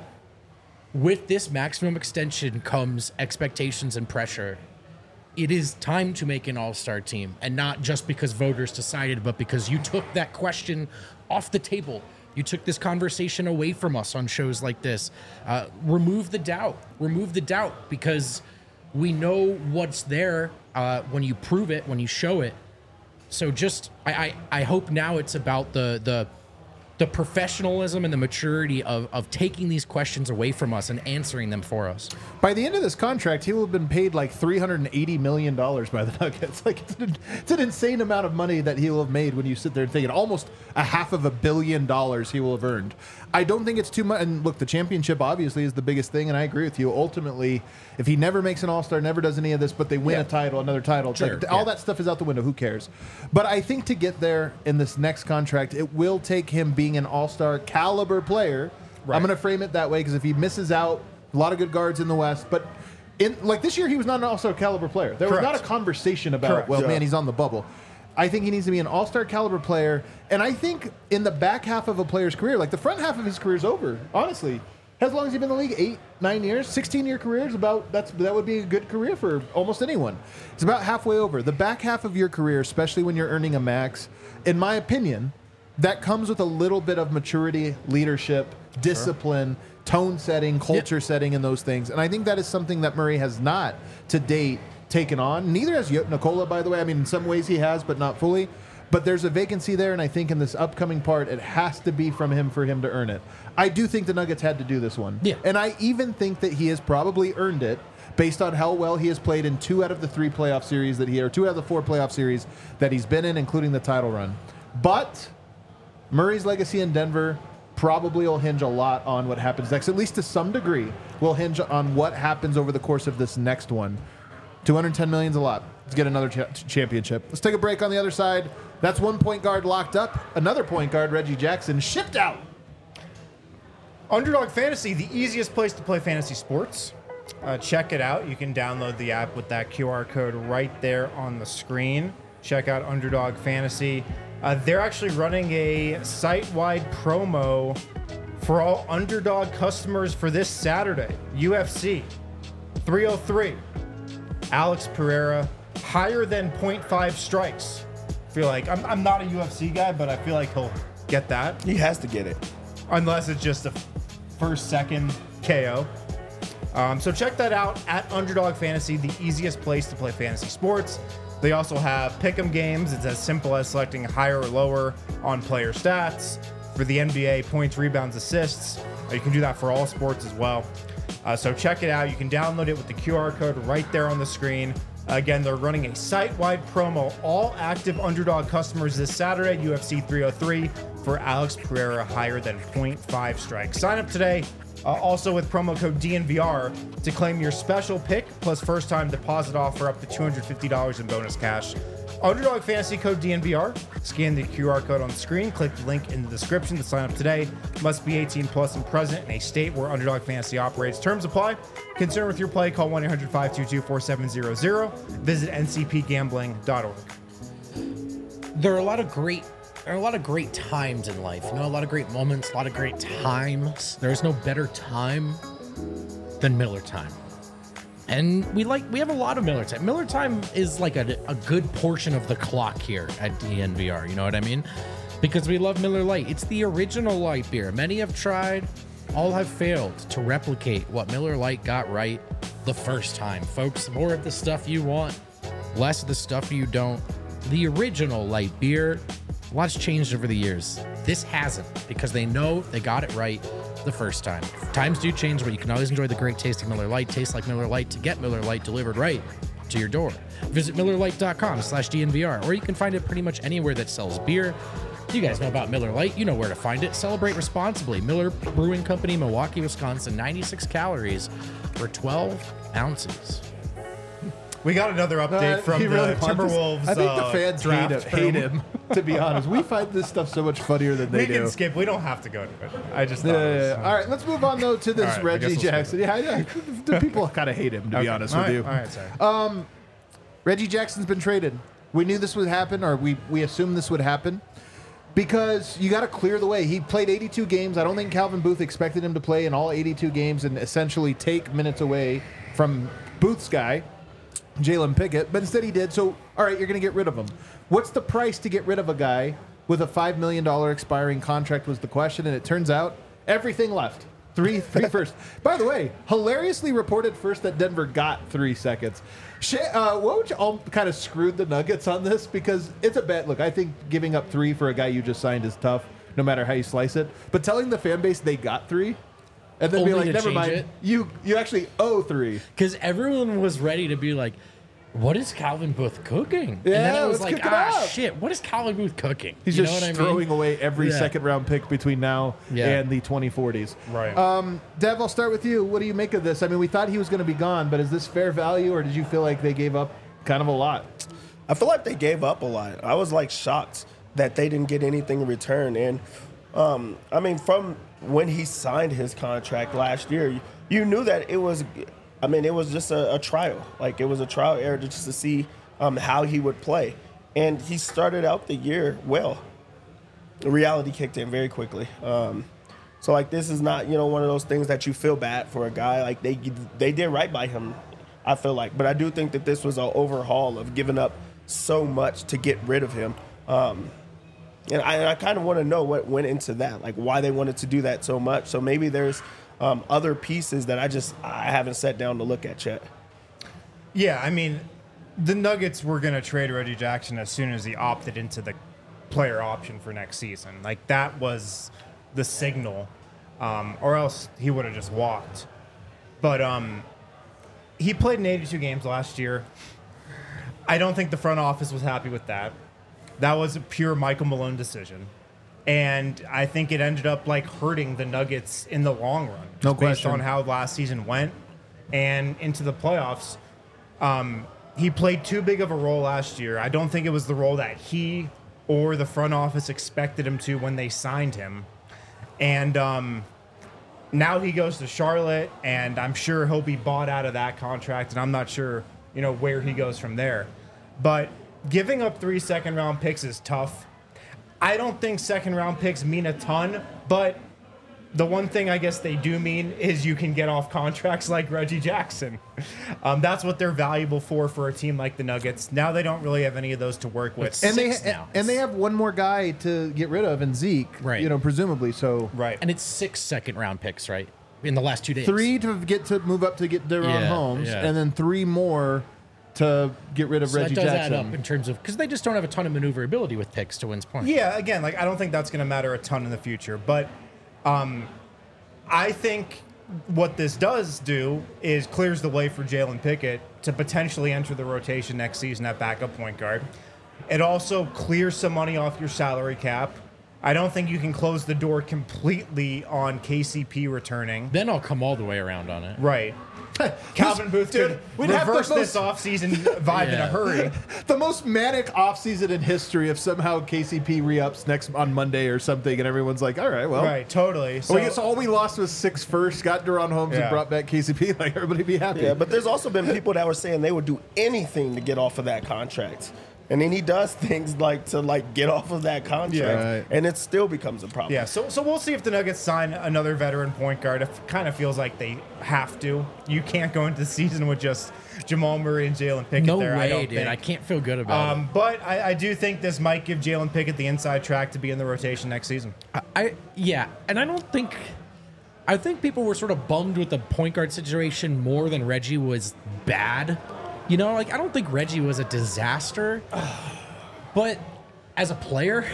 S1: with this maximum extension comes expectations and pressure. It is time to make an all-star team, and not just because voters decided, but because you took that question off the table. You took this conversation away from us on shows like this. Uh, remove the doubt. Remove the doubt, because we know what's there uh, when you prove it, when you show it. So just, I, I, I hope now it's about the the the professionalism and the maturity of, of taking these questions away from us and answering them for us.
S2: By the end of this contract, he will have been paid like three hundred eighty million dollars by the Nuggets. Like, it's an, it's an insane amount of money that he will have made when you sit there and think it. Almost a half of a billion dollars he will have earned. I don't think it's too much. And look, the championship obviously is the biggest thing, and I agree with you. Ultimately, if he never makes an all-star, never does any of this, but they win
S1: Yeah.
S2: a title, another title, it's
S1: Sure,
S2: like, all
S1: yeah.
S2: that stuff is out the window. Who cares? But I think to get there in this next contract, it will take him being an all-star caliber player.
S3: Right.
S2: I'm going to frame it that way, because if he misses out, a lot of good guards in the West, but in like this year, he was not an all-star caliber player. There was
S3: Correct.
S2: not a conversation about,
S3: Correct.
S2: well,
S4: Yeah.
S2: man, he's on the bubble. I think he needs to be an all-star caliber player, and I think in the back half of a player's career, like the front half of his career is over, honestly. As long as he's been in the league, eight, nine years, sixteen-year career is about, that's that would be a good career for almost anyone. It's about halfway over. The back half of your career, especially when you're earning a max, in my opinion, that comes with a little bit of maturity, leadership, discipline, tone setting, culture setting, and those things. And I think that is something that Murray has not, to date, taken on. Neither has Nikola, by the way. I mean, in some ways he has, but not fully. But there's a vacancy there, and I think in this upcoming part, it has to be from him for him to earn it. I do think the Nuggets had to do this one.
S1: Yeah.
S2: And I even think that he has probably earned it based on how well he has played in two out of the three playoff series that he, or two out of the four playoff series that he's been in, including the title run. But Murray's legacy in Denver probably will hinge a lot on what happens next, at least to some degree, will hinge on what happens over the course of this next one. two hundred ten million is a lot. Let's get another cha- championship. Let's take a break on the other side. That's one point guard locked up. Another point guard, Reggie Jackson, shipped out.
S3: Underdog Fantasy, the easiest place to play fantasy sports. Uh, check it out. You can download the app with that Q R code right there on the screen. Check out Underdog Fantasy. Uh, they're actually running a site-wide promo for all Underdog customers for this Saturday. U F C three oh three. Alex Pereira, higher than point five strikes. I feel like I'm, I'm not a U F C guy, but I feel like he'll get that.
S4: He has to get it.
S3: Unless it's just a first, second K O. Um, so check that out at Underdog Fantasy, the easiest place to play fantasy sports. They also have pick'em games. It's as simple as selecting higher or lower on player stats. For the N B A, points, rebounds, assists. Uh, you can do that for all sports as well. Uh, so check it out. You can download it with the Q R code right there on the screen. Again, they're running a site-wide promo. All active Underdog customers this Saturday, U F C three oh three, for Alex Pereira higher than point five strikes. Sign up today, uh, also with promo code D N V R, to claim your special pick plus first-time deposit offer up to two hundred fifty dollars in bonus cash. Underdog Fantasy code D N V R. Scan the Q R code on the screen. Click the link in the description to sign up today. Must be eighteen plus and present in a state where Underdog Fantasy operates. Terms apply. Concerned with your play, call one eight hundred five two two four seven zero zero. Visit N C P gambling dot org.
S1: There are a lot of great there are a lot of great times in life. You know, a lot of great moments, a lot of great times. There is no better time than Miller time. And we like we have a lot of Miller time. Miller time is like a, a good portion of the clock here at D N V R. You know what I mean? Because we love Miller Lite. It's the original light beer. Many have tried, all have failed to replicate what Miller Lite got right. the first time, folks. More of the stuff you want, less of the stuff you don't. The original light beer, a lot's changed over the years. This hasn't, because they know they got it right the first time. Times do change, but you can always enjoy the great tasting Miller Lite. Taste like Miller Lite to get Miller Lite delivered right to your door. Visit Miller Lite dot com slash D N V R, or you can find it pretty much anywhere that sells beer. You guys know about Miller Lite. You know where to find it. Celebrate responsibly. Miller Brewing Company, Milwaukee, Wisconsin. ninety-six calories for twelve ounces.
S3: We got another update
S2: Uh,
S3: from
S2: he
S3: the
S2: really wants us-
S3: Timberwolves.
S2: I think
S3: uh,
S2: the fans hate him,
S3: draft
S2: hate
S3: room.
S2: him, to be honest. We find this stuff so much funnier than they
S3: We
S2: do.
S3: can skip. We don't have to go to it. I just
S2: Yeah,
S3: thought
S2: yeah,
S3: it was,
S2: yeah. All right, let's move on, though, to this
S3: All right, I
S2: Reggie
S3: guess we'll skip
S2: Jackson. Yeah, yeah, the people kind of hate him, to
S3: Okay.
S2: be honest
S3: All
S2: with
S3: right,
S2: you.
S3: All right, sorry.
S2: Reggie Jackson's been traded. We knew this would happen, or we, we assumed this would happen, because you got to clear the way. He played eighty-two games. I don't think Calvin Booth expected him to play in all eighty-two games and essentially take minutes away from Booth's guy, Jalen Pickett, but instead he did. So, all right, you're going to get rid of him. What's the price to get rid of a guy with a five million dollars expiring contract was the question, and it turns out everything left. Three, three first. By the way, hilariously reported first that Denver got three seconds. Shay, uh, what would you all kind of screwed the Nuggets on this? Because it's a bet. Look, I think giving up three for a guy you just signed is tough, no matter how you slice it. But telling the fan base they got three, and then be
S1: Only
S2: like,
S1: to
S2: never
S1: change
S2: mind,
S1: it?
S2: you you actually owe three.
S1: Because everyone was ready to be like, what is Calvin Booth cooking? and
S2: Yeah,
S1: then it was
S2: let's
S1: like,
S2: cook it
S1: ah,
S2: up.
S1: shit, what is Calvin Booth cooking?
S2: He's
S1: You
S2: just
S1: know what I
S2: throwing
S1: mean?
S2: away every
S1: Yeah.
S2: second round pick between now
S1: Yeah.
S2: and the twenty forties.
S3: Right.
S2: Um, Dev, I'll start with you. What do you make of this? I mean, we thought he was going to be gone, but is this fair value, or did you feel like they gave up kind of a lot?
S4: I feel like they gave up a lot. I was like shocked that they didn't get anything in return. And um, I mean, from when he signed his contract last year, you, you knew that it was. I mean, it was just a, a trial. Like it was a trial error just to see um, how he would play. And he started out the year well. The reality kicked in very quickly. Um, so like this is not you know one of those things that you feel bad for a guy. Like they they did right by him. I feel like, but I do think that this was an overhaul of giving up so much to get rid of him. Um, and I, I kind of want to know what went into that, like why they wanted to do that so much. So maybe there's um, other pieces that I just I haven't sat down to look at yet.
S3: Yeah, I mean, the Nuggets were going to trade Reggie Jackson as soon as he opted into the player option for next season. Like, that was the signal, um, or else he would have just walked. But um, he played in eighty-two games last year. I don't think the front office was happy with that. That was a pure Michael Malone decision. And I think it ended up like hurting the Nuggets in the long run.
S2: No
S3: just based
S2: question.
S3: on how last season went and into the playoffs. Um, he played too big of a role last year. I don't think it was the role that he or the front office expected him to when they signed him. And um, now he goes to Charlotte, and I'm sure he'll be bought out of that contract, and I'm not sure, you know, where he goes from there. But giving up three second round picks is tough. I don't think second round picks mean a ton, but the one thing I guess they do mean is you can get off contracts like Reggie Jackson. Um, that's what they're valuable for for a team like the Nuggets. Now they don't really have any of those to work with.
S1: It's
S2: And they
S1: Six now.
S2: and they have one more guy to get rid of, and Zeke,
S1: Right.
S2: You know, presumably. So
S3: Right.
S1: And it's six second round picks, right? In the last two days.
S2: three to get to move up to get Deron
S1: Yeah,
S2: Holmes,
S1: yeah.
S2: and then three more to get rid of
S1: So
S2: Reggie
S1: that does
S2: Jackson.
S1: add up in terms of, because they just don't have a ton of maneuverability with picks to Wynn's point.
S3: Yeah, again, like I don't think that's going to matter a ton in the future, but um, I think what this does do is clears the way for Jalen Pickett to potentially enter the rotation next season at backup point guard. It also clears some money off your salary cap. I don't think you can close the door completely on K C P returning.
S1: Then I'll come all the way around on it.
S3: Right. Calvin Booth
S2: Dude,
S3: could
S2: we'd have the
S3: reverse this
S2: most-
S3: offseason vibe in
S1: Yeah.
S3: a hurry.
S2: The most manic offseason in history if somehow K C P re-ups next on Monday or something, and everyone's like, all right, well.
S3: Right, totally. So,
S2: So, I guess all we lost was six first, got Deron Holmes,
S3: Yeah.
S2: and brought back K C P. Like, everybody be happy.
S4: Yeah, but there's also been people that were saying they would do anything to get off of that contract. And then he does things like to like get off of that contract,
S2: Yeah. Right.
S4: and it still becomes a problem.
S3: Yeah, so so we'll see if the Nuggets sign another veteran point guard. It kind of feels like they have to. You can't go into the season with just Jamal Murray and Jalen Pickett
S1: No
S3: there. I
S1: way,
S3: don't
S1: dude.
S3: think.
S1: I can't feel good about
S3: Um, but I, I do think this might give Jalen Pickett the inside track to be in the rotation next season.
S1: it. I, I yeah, and I don't think I think people were sort of bummed with the point guard situation more than Reggie was bad. You know, like I don't think Reggie was a disaster, but as a player,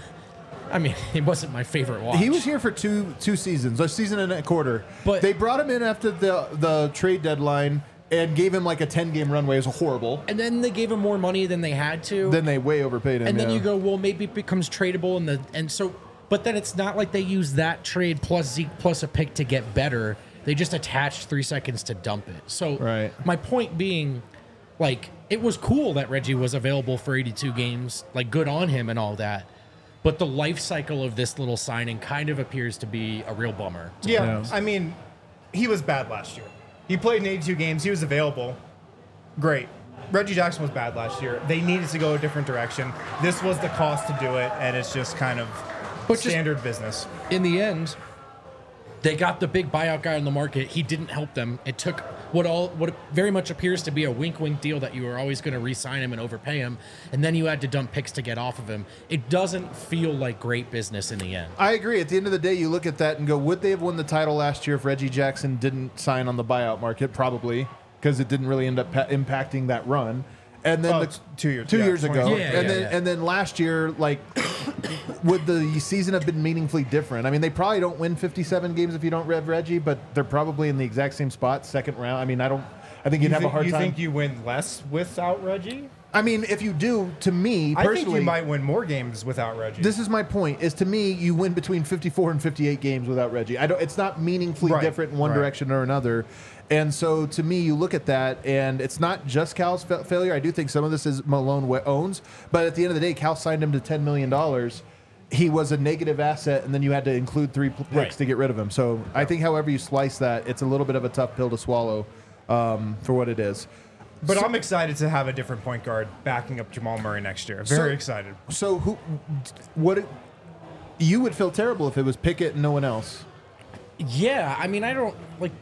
S1: I mean, he wasn't my favorite watch.
S2: He was here for two two seasons, a season and a quarter.
S1: But-
S2: they brought him in after the the trade deadline and gave him like a ten game runway. It was horrible.
S1: And then they gave him more money than they had to.
S2: Then they way overpaid him.
S1: and then
S2: yeah.
S1: you go, well, maybe it becomes tradable, and the and so, but then it's not like they use that trade plus Zeke plus a pick to get better. They just attached three seconds to dump it. So
S2: Right.
S1: my point being, like, it was cool that Reggie was available for eighty-two games, like good on him and all that. But the life cycle of this little signing kind of appears to be a real bummer.
S3: Yeah,
S2: Yeah.
S3: I mean, he was bad last year. He played in eighty-two games. He was available. Great. Reggie Jackson was bad last year. They needed to go a different direction. This was the cost to do it, and it's just kind of
S1: But just-
S3: standard business.
S1: In the end, they got the big buyout guy on the market. He didn't help them. It took what all what very much appears to be a wink wink deal that you were always going to re-sign him and overpay him, and then you had to dump picks to get off of him. It doesn't feel like great business in the end.
S2: I agree. At the end of the day, you look at that and go, would they have won the title last year if Reggie Jackson didn't sign on the buyout market? Probably, because it didn't really end up pa- impacting that run. And then
S3: Oh,
S2: the,
S3: it's two years-
S2: two
S3: yeah,
S2: years ago,
S3: twenty-
S1: Yeah,
S2: and
S1: yeah,
S2: then
S1: yeah.
S2: and then last year, like, would the season have been meaningfully different? I mean, they probably don't win fifty-seven games if you don't rev Reggie, but they're probably in the exact same spot, second round. I mean, I don't. I think you'd
S3: You,
S2: have
S3: think,
S2: a hard
S3: you
S2: time.
S3: think you win less without Reggie?
S2: I mean, if you do, to me
S3: I
S2: personally,
S3: think you might win more games without Reggie.
S2: this is my point. Is to me, you win between fifty-four and fifty-eight games without Reggie. I don't. It's not meaningfully
S3: Right,
S2: different in one
S3: right.
S2: direction or another. And so, to me, you look at that, and it's not just Cal's fa- failure. I do think some of this is Malone wa- owns, but at the end of the day, Cal signed him to ten million dollars. He was a negative asset, and then you had to include three pl- picks
S1: Right.
S2: to get rid of him. So, I think, however you slice that, it's a little bit of a tough pill to swallow um, for what it is.
S3: but
S2: so-
S3: I'm excited to have a different point guard backing up Jamal Murray next year. Very
S2: So-
S3: excited.
S2: So, who? What? It, you would feel terrible if it was Pickett and no one else.
S1: Yeah, I mean, I don't like.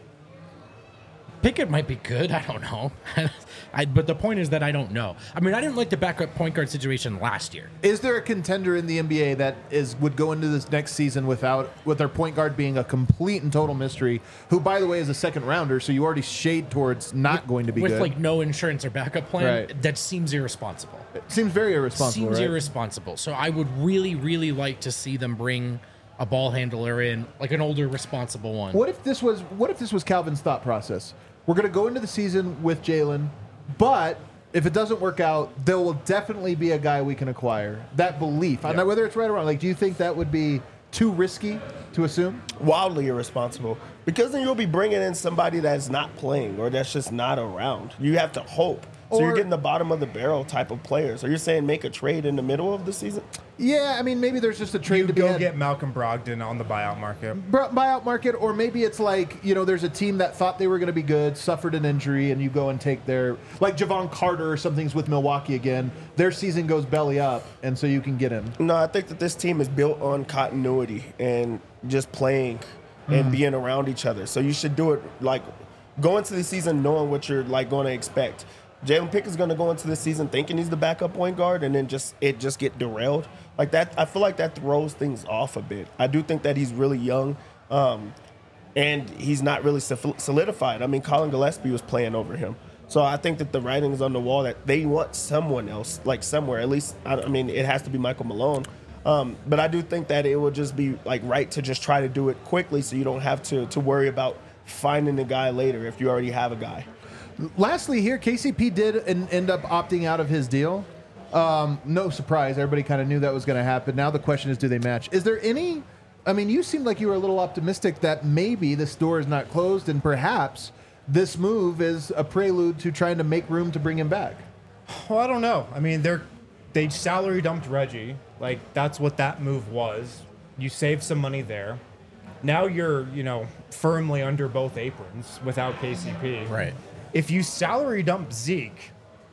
S1: Pickett might be good. I don't know. I, but the point is that I don't know. I mean, I didn't like the backup point guard situation last year.
S2: Is there a contender in the N B A that is would go into this next season without with their point guard being a complete and total mystery? Who, by the way, is a second rounder, so you already shade towards not going to be
S1: With
S2: good.
S1: like no insurance or backup plan,
S2: Right.
S1: that seems irresponsible.
S2: Seems very irresponsible.
S1: Seems
S2: right?
S1: irresponsible. So I would really, really like to see them bring a ball handler in, like an older, responsible one.
S2: What if this was what if this was Calvin's thought process? We're going to go into the season with Jalen, but if it doesn't work out, there will definitely be a guy we can acquire. That belief, I don't know whether it's right or wrong. Like, do you think that would be too risky to assume?
S4: Wildly irresponsible, because then you'll be bringing in somebody that's not playing or that's just not around. You have to hope. So
S2: Or-
S4: you're getting the bottom of the barrel type of players. So you're saying make a trade in the middle of the season?
S2: Yeah, I mean, maybe there's just a trade
S3: You
S2: to be
S3: go
S2: had.
S3: get Malcolm Brogdon on the buyout market.
S2: Bur- buyout market, or maybe it's like, you know, there's a team that thought they were going to be good, suffered an injury, and you go and take their, like Javon Carter or something's with Milwaukee again. Their season goes belly up, and so you can get him.
S4: No, I think that this team is built on continuity and just playing and being around each other. So you should do it like go into the season knowing what you're like going to expect. Jalen Pickett's going to go into the season thinking he's the backup point guard, and then just it just get derailed like that. I feel like that throws things off a bit. I do think that he's really young, um, and he's not really sol- solidified. I mean, Colin Gillespie was playing over him, so I think that the writing is on the wall that they want someone else, like somewhere. At least, I, I mean, it has to be Michael Malone. Um, but I do think that it would just be like right to just try to do it quickly, so you don't have to to worry about finding a guy later if you already have a guy.
S2: Lastly, here, K C P did en- end up opting out of his deal. Um, no surprise. Everybody kind of knew that was going to happen. Now the question is, do they match? Is there any... I mean, you seemed like you were a little optimistic that maybe this door is not closed, and perhaps this move is a prelude to trying to make room to bring him back.
S3: Well, I don't know. I mean, they're they salary dumped Reggie. Like that's what that move was. You save some money there. Now you're, you know, firmly under both aprons without K C P.
S1: Right.
S3: If you salary dump Zeke,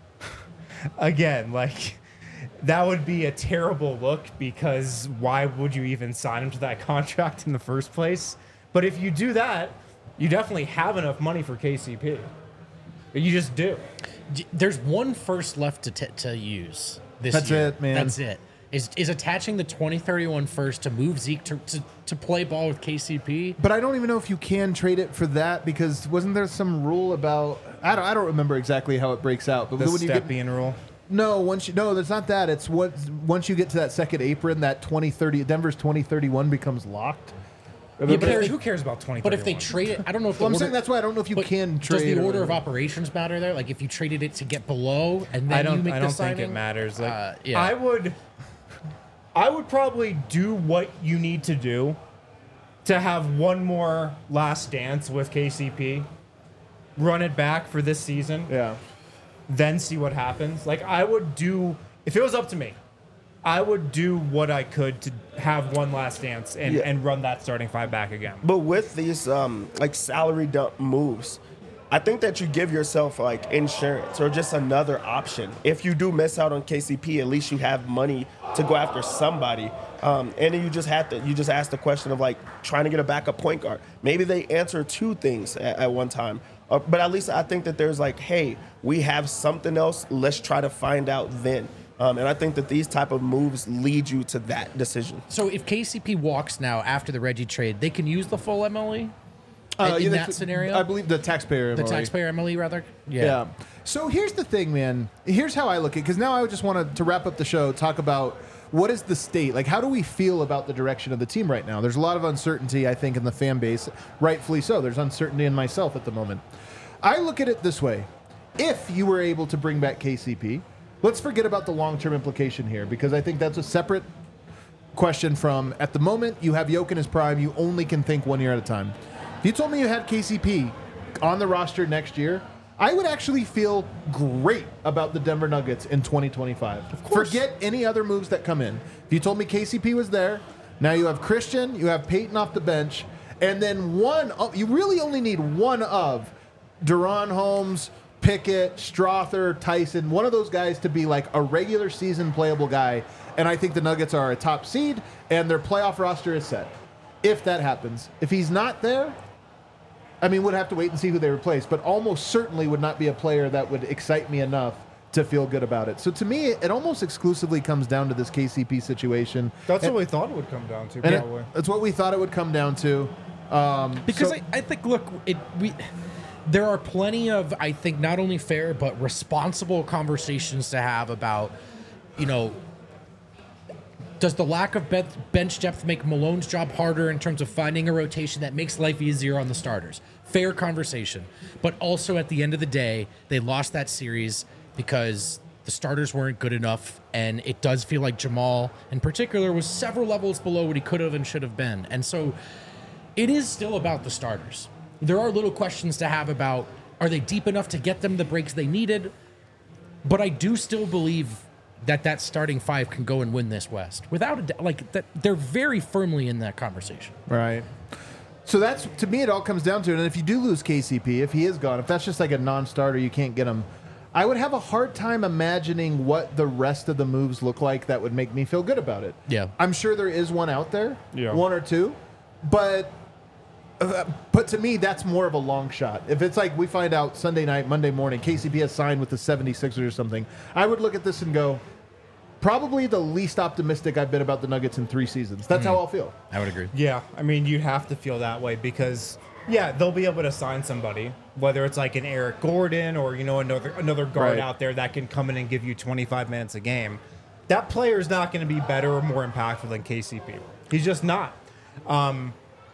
S3: again, like that would be a terrible look because why would you even sign him to that contract in the first place? But if you do that, you definitely have enough money for K C P. You just do.
S1: D- There's one first left to t- to use this
S2: That's
S1: year.
S2: it, man.
S1: That's it. Is is attaching the twenty thirty-one first to move Zeke to, to, to play ball with K C P?
S2: But I don't even know if you can trade it for that because wasn't there some rule about I don't I don't remember exactly how it breaks out. But
S3: The
S2: when you get
S3: Stepien rule.
S2: no once you no, there's not that. It's what once you get to that second apron, that twenty thirty Denver's twenty thirty-one becomes locked.
S1: Yeah,
S3: Who
S1: but if
S3: cares,
S1: they-
S3: who cares about twenty?
S1: But if they trade it, I don't know if
S2: Well, I'm
S1: the
S2: saying
S1: order,
S2: that's why I don't know if you
S1: but
S2: can
S1: does
S2: trade
S1: the
S2: it
S1: order
S2: or-
S1: of operations matter there? Like if you traded it to get below and then
S3: I don't.
S1: you make
S3: I
S1: the
S3: don't think
S1: signing?
S3: it matters. Like,
S1: Uh, yeah.
S3: I would. I would probably do what you need to do to have one more last dance with K C P, run it back for this season,
S2: Yeah.
S3: then see what happens. Like I would do if it was up to me, I would do what I could to have one last dance and,
S4: Yeah.
S3: and run that starting five back again.
S4: But with these um, like salary dump moves, I think that you give yourself like insurance or just another option. If you do miss out on K C P, at least you have money to go after somebody. Um, and then you just have to you just ask the question of like trying to get a backup point guard. Maybe they answer two things at, at one time. Uh, but at least I think that there's like, hey, we have something else. Let's try to find out then. Um, and I think that these type of moves lead you to that decision.
S1: So if K C P walks now after the Reggie trade, they can use the full M L E
S2: Uh,
S1: in
S2: yeah,
S1: that
S2: that's-
S1: scenario?
S2: I believe the taxpayer
S1: the
S2: M L E.
S1: taxpayer M L E rather.
S2: Yeah. So here's the thing, man. Here's how I look at it. Because now I just want to, to wrap up the show, talk about what is the state? Like, how do we feel about the direction of the team right now? There's a lot of uncertainty, I think, in the fan base. Rightfully so. There's uncertainty in myself at the moment. I look at it this way. If you were able to bring back K C P, let's forget about the long-term implication here, because I think that's a separate question from, at the moment, you have Jokic in his prime, you only can think one year at a time. If you told me you had K C P on the roster next year, I would actually feel great about the Denver Nuggets in twenty twenty-five. Forget any other moves that come in. If you told me K C P was there, now you have Christian, you have Peyton off the bench, and then one, of, you really only need one of Duran Holmes, Pickett, Strother, Tyson, one of those guys to be like a regular season playable guy. And I think the Nuggets are a top seed and their playoff roster is set. If that happens. If he's not there, I mean, we'd have to wait and see who they replace, but almost certainly would not be a player that would excite me enough to feel good about it. So to me, it almost exclusively comes down to this K C P situation.
S3: That's
S2: and,
S3: what we thought it would come down to,
S2: and it-
S3: probably.
S2: It's what we thought it would come down to. Um,
S1: Because
S2: so-
S1: I, I think, look, it we there are plenty of, I think, not only fair but responsible conversations to have about, you know, does the lack of be- bench depth make Malone's job harder in terms of finding a rotation that makes life easier on the starters? Fair conversation. But also at the end of the day, they lost that series because the starters weren't good enough, and it does feel like Jamal, in particular, was several levels below what he could have and should have been. And so it is still about the starters. There are little questions to have about, are they deep enough to get them the breaks they needed? But I do still believe that that starting five can go and win this West without a doubt. Like that, they're very firmly in that conversation.
S2: Right. So that's, to me, it all comes down to it. And if you do lose K C P, if he is gone, if that's just like a non-starter, you can't get him, I would have a hard time imagining what the rest of the moves look like that would make me feel good about it.
S1: Yeah.
S2: I'm sure there is one out there,
S3: Yeah.
S2: one or two, but uh, but to me, that's more of a long shot. If it's like we find out Sunday night, Monday morning, K C P has signed with the seventy-sixers or something, I would look at this and go, probably the least optimistic I've been about the Nuggets in three seasons. That's how I'll feel.
S1: I would agree.
S3: Yeah, I mean, you'd have to feel that way because, yeah, they'll be able to sign somebody, whether it's like an Eric Gordon or, you know, another another guard
S2: Right.
S3: out there that can come in and give you twenty-five minutes a game. That player is not going to be better or more impactful than K C P. He's just not. Um,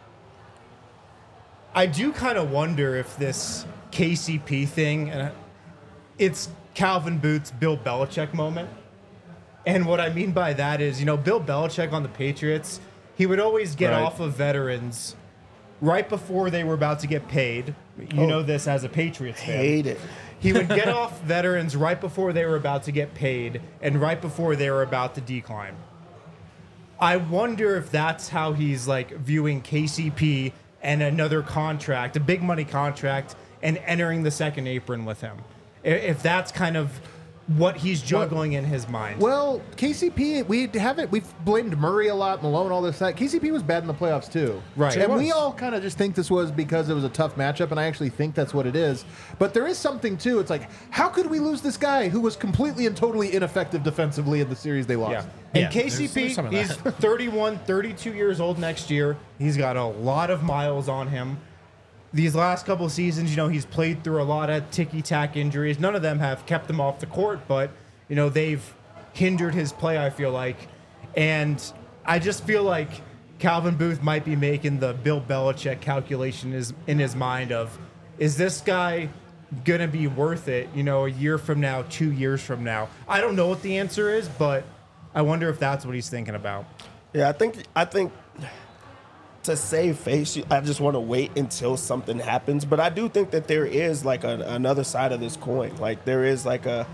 S3: I do kind of wonder if this K C P thing, and it's Calvin Booth's Bill Belichick moment. And what I mean by that is, you know, Bill Belichick on the Patriots, he would always get
S2: Right.
S3: off of veterans right before they were about to get paid. You
S2: Oh.
S3: know this as a Patriots fan.
S4: Hate it.
S3: He would get off veterans right before they were about to get paid and right before they were about to decline. I wonder if that's how he's like viewing K C P and another contract, a big money contract, and entering the second apron with him. I- If that's kind of what he's juggling in his mind.
S2: Well, K C P, we haven't, we've blamed Murray a lot, Malone, all this, that. K C P was bad in the playoffs, too.
S3: Right.
S2: And
S3: It
S2: we
S3: was.
S2: all kind of just think this was because it was a tough matchup, and I actually think that's what it is. But there is something, too. It's like, how could we lose this guy who was completely and totally ineffective defensively in the series they lost?
S3: Yeah. And
S1: Yeah,
S3: K C
S1: there's-
S3: P,
S1: there's some of
S3: he's
S1: that.
S3: thirty-one, thirty-two years old next year. He's got a lot of miles on him. These last couple of seasons, you know, he's played through a lot of ticky-tack injuries. None of them have kept him off the court, but, you know, they've hindered his play, I feel like. And I just feel like Calvin Booth might be making the Bill Belichick calculation is in his mind of, is this guy going to be worth it, you know, a year from now, two years from now? I don't know what the answer is, but I wonder if that's what he's thinking about.
S4: Yeah, I think I think to save face, I just want to wait until something happens. But I do think that there is like a, another side of this coin. Like there is like a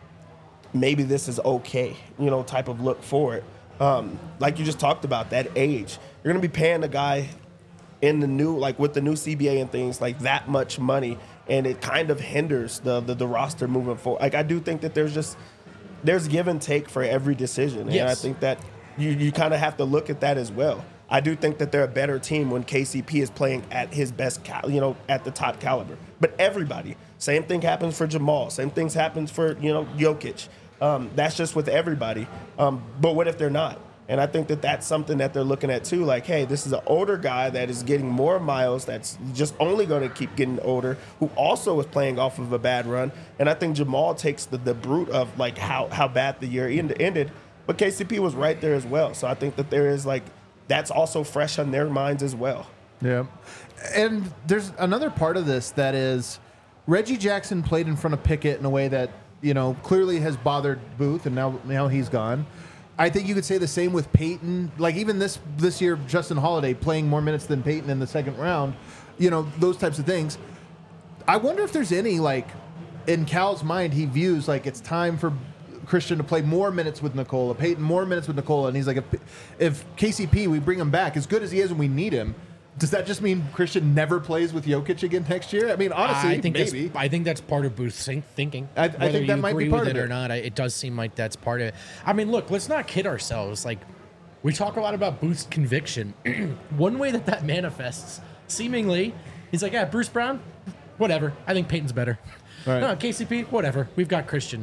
S4: maybe this is okay, you know, type of look for it. Um, like you just talked about, that age. You're gonna be paying a guy in the new, like with the new C B A and things, like that much money, and it kind of hinders the the, the roster moving forward. Like I do think that there's just there's give and take for every decision, and
S1: Yes.
S4: I think that you you kind of have to look at that as well. I do think that they're a better team when K C P is playing at his best, cal- you know, at the top caliber. But everybody, same thing happens for Jamal. Same things happens for, you know, Jokic. Um, that's just with everybody. Um, but what if they're not? And I think that that's something that they're looking at too. Like, hey, this is an older guy that is getting more miles. That's just only going to keep getting older. Who also is playing off of a bad run. And I think Jamal takes the, the brute of like how how bad the year end, ended. But K C P was right there as well. So I think that there is like that's also fresh on their minds as well.
S2: Yeah. And there's another part of this that is Reggie Jackson played in front of Pickett in a way that, you know, clearly has bothered Booth, and now now he's gone. I think you could say the same with Peyton. Like even this this year, Justin Holiday playing more minutes than Peyton in the second round, you know, those types of things. I wonder if there's any, like, in Cal's mind, he views like it's time for Christian to play more minutes with Nikola, Peyton more minutes with Nikola, and he's like, if, if K C P, we bring him back, as good as he is and we need him, does that just mean Christian never plays with Jokic again next year? I mean, honestly,
S1: I think
S2: maybe.
S1: That's, I think that's part of Booth's think- thinking.
S2: I- I
S1: Whether
S2: think that
S1: you
S2: might be
S1: agree
S2: part
S1: with
S2: of
S1: it
S2: it.
S1: or not, I, it does seem like that's part of it. I mean, look, let's not kid ourselves. Like, we talk a lot about Booth's conviction. One way that that manifests, seemingly, he's like, yeah, Bruce Brown, whatever. I think Peyton's better.
S2: Right.
S1: No, K C P, whatever. We've got Christian.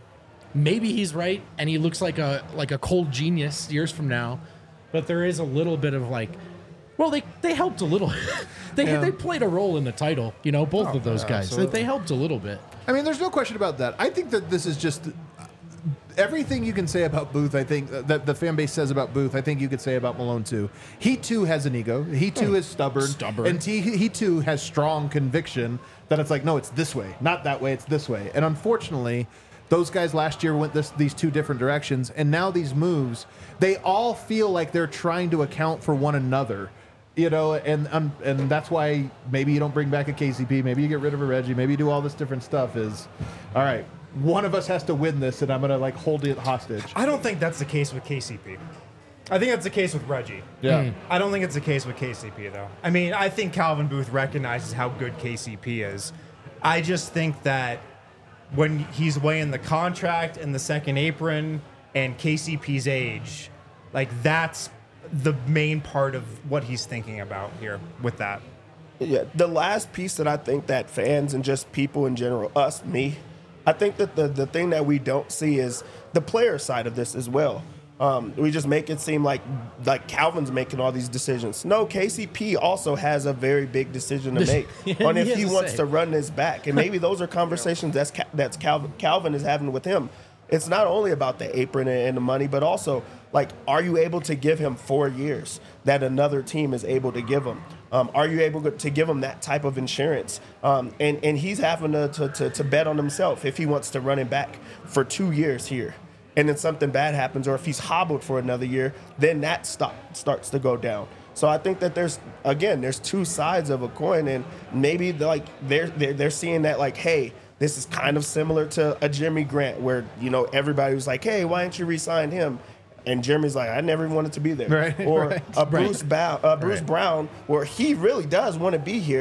S1: Maybe he's right, and he looks like a like a cold genius years from now. But there is a little bit of like, well, they, they helped a little. they
S2: Yeah.
S1: they played a role in the title, you know, both
S2: Oh,
S1: of those
S2: yeah,
S1: guys. They,
S2: absolutely.
S1: they helped a little bit.
S2: I mean, there's no question about that. I think that this is just everything you can say about Booth. I think that the fan base says about Booth, I think you could say about Malone too. He too has an ego. He too is stubborn.
S1: Stubborn.
S2: And he, he too has strong conviction that it's like, no, it's this way, not that way. It's this way. And unfortunately, those guys last year went this, these two different directions, and now these moves, they all feel like they're trying to account for one another. You know, and um, and that's why maybe you don't bring back a K C P, maybe you get rid of a Reggie, maybe you do all this different stuff. Is all right. One of us has to win this, and I'm gonna like hold it hostage.
S3: I don't think that's the case with K C P. I think that's the case with Reggie.
S2: Yeah.
S3: I don't think it's the case with K C P, though. I mean, I think Calvin Booth recognizes how good K C P is. I just think that when he's weighing the contract and the second apron and K C P's age, like that's the main part of what he's thinking about here with that.
S4: Yeah, the last piece that I think that fans and just people in general, us, me, I think that the, the thing that we don't see is the player side of this as well. Um, we just make it seem like like Calvin's making all these decisions. No, K C P also has a very big decision to make
S1: Yeah,
S4: on if
S1: he
S4: he
S1: has to
S4: wants
S1: say.
S4: to run this back, and maybe those are conversations that's Ca- that's Calvin Calvin is having with him. It's not only about the apron and, and the money, but also like, are you able to give him four years that another team is able to give him? Um, are you able to give him that type of insurance? Um, and and he's having to, to to to bet on himself if he wants to run it back for two years here. And then something bad happens, or if he's hobbled for another year, then that stop starts to go down. So I think that there's again, there's two sides of a coin, and maybe like they're they're, they're seeing that like, hey, this is kind of similar to a Jeremy Grant, where you know everybody was like, hey, why didn't you re-sign him? And Jeremy's like, I never wanted to be there.
S2: Right,
S4: or
S2: right,
S4: a Bruce, Bow, uh, Bruce
S1: Right.
S4: Brown, where he really does want to be here,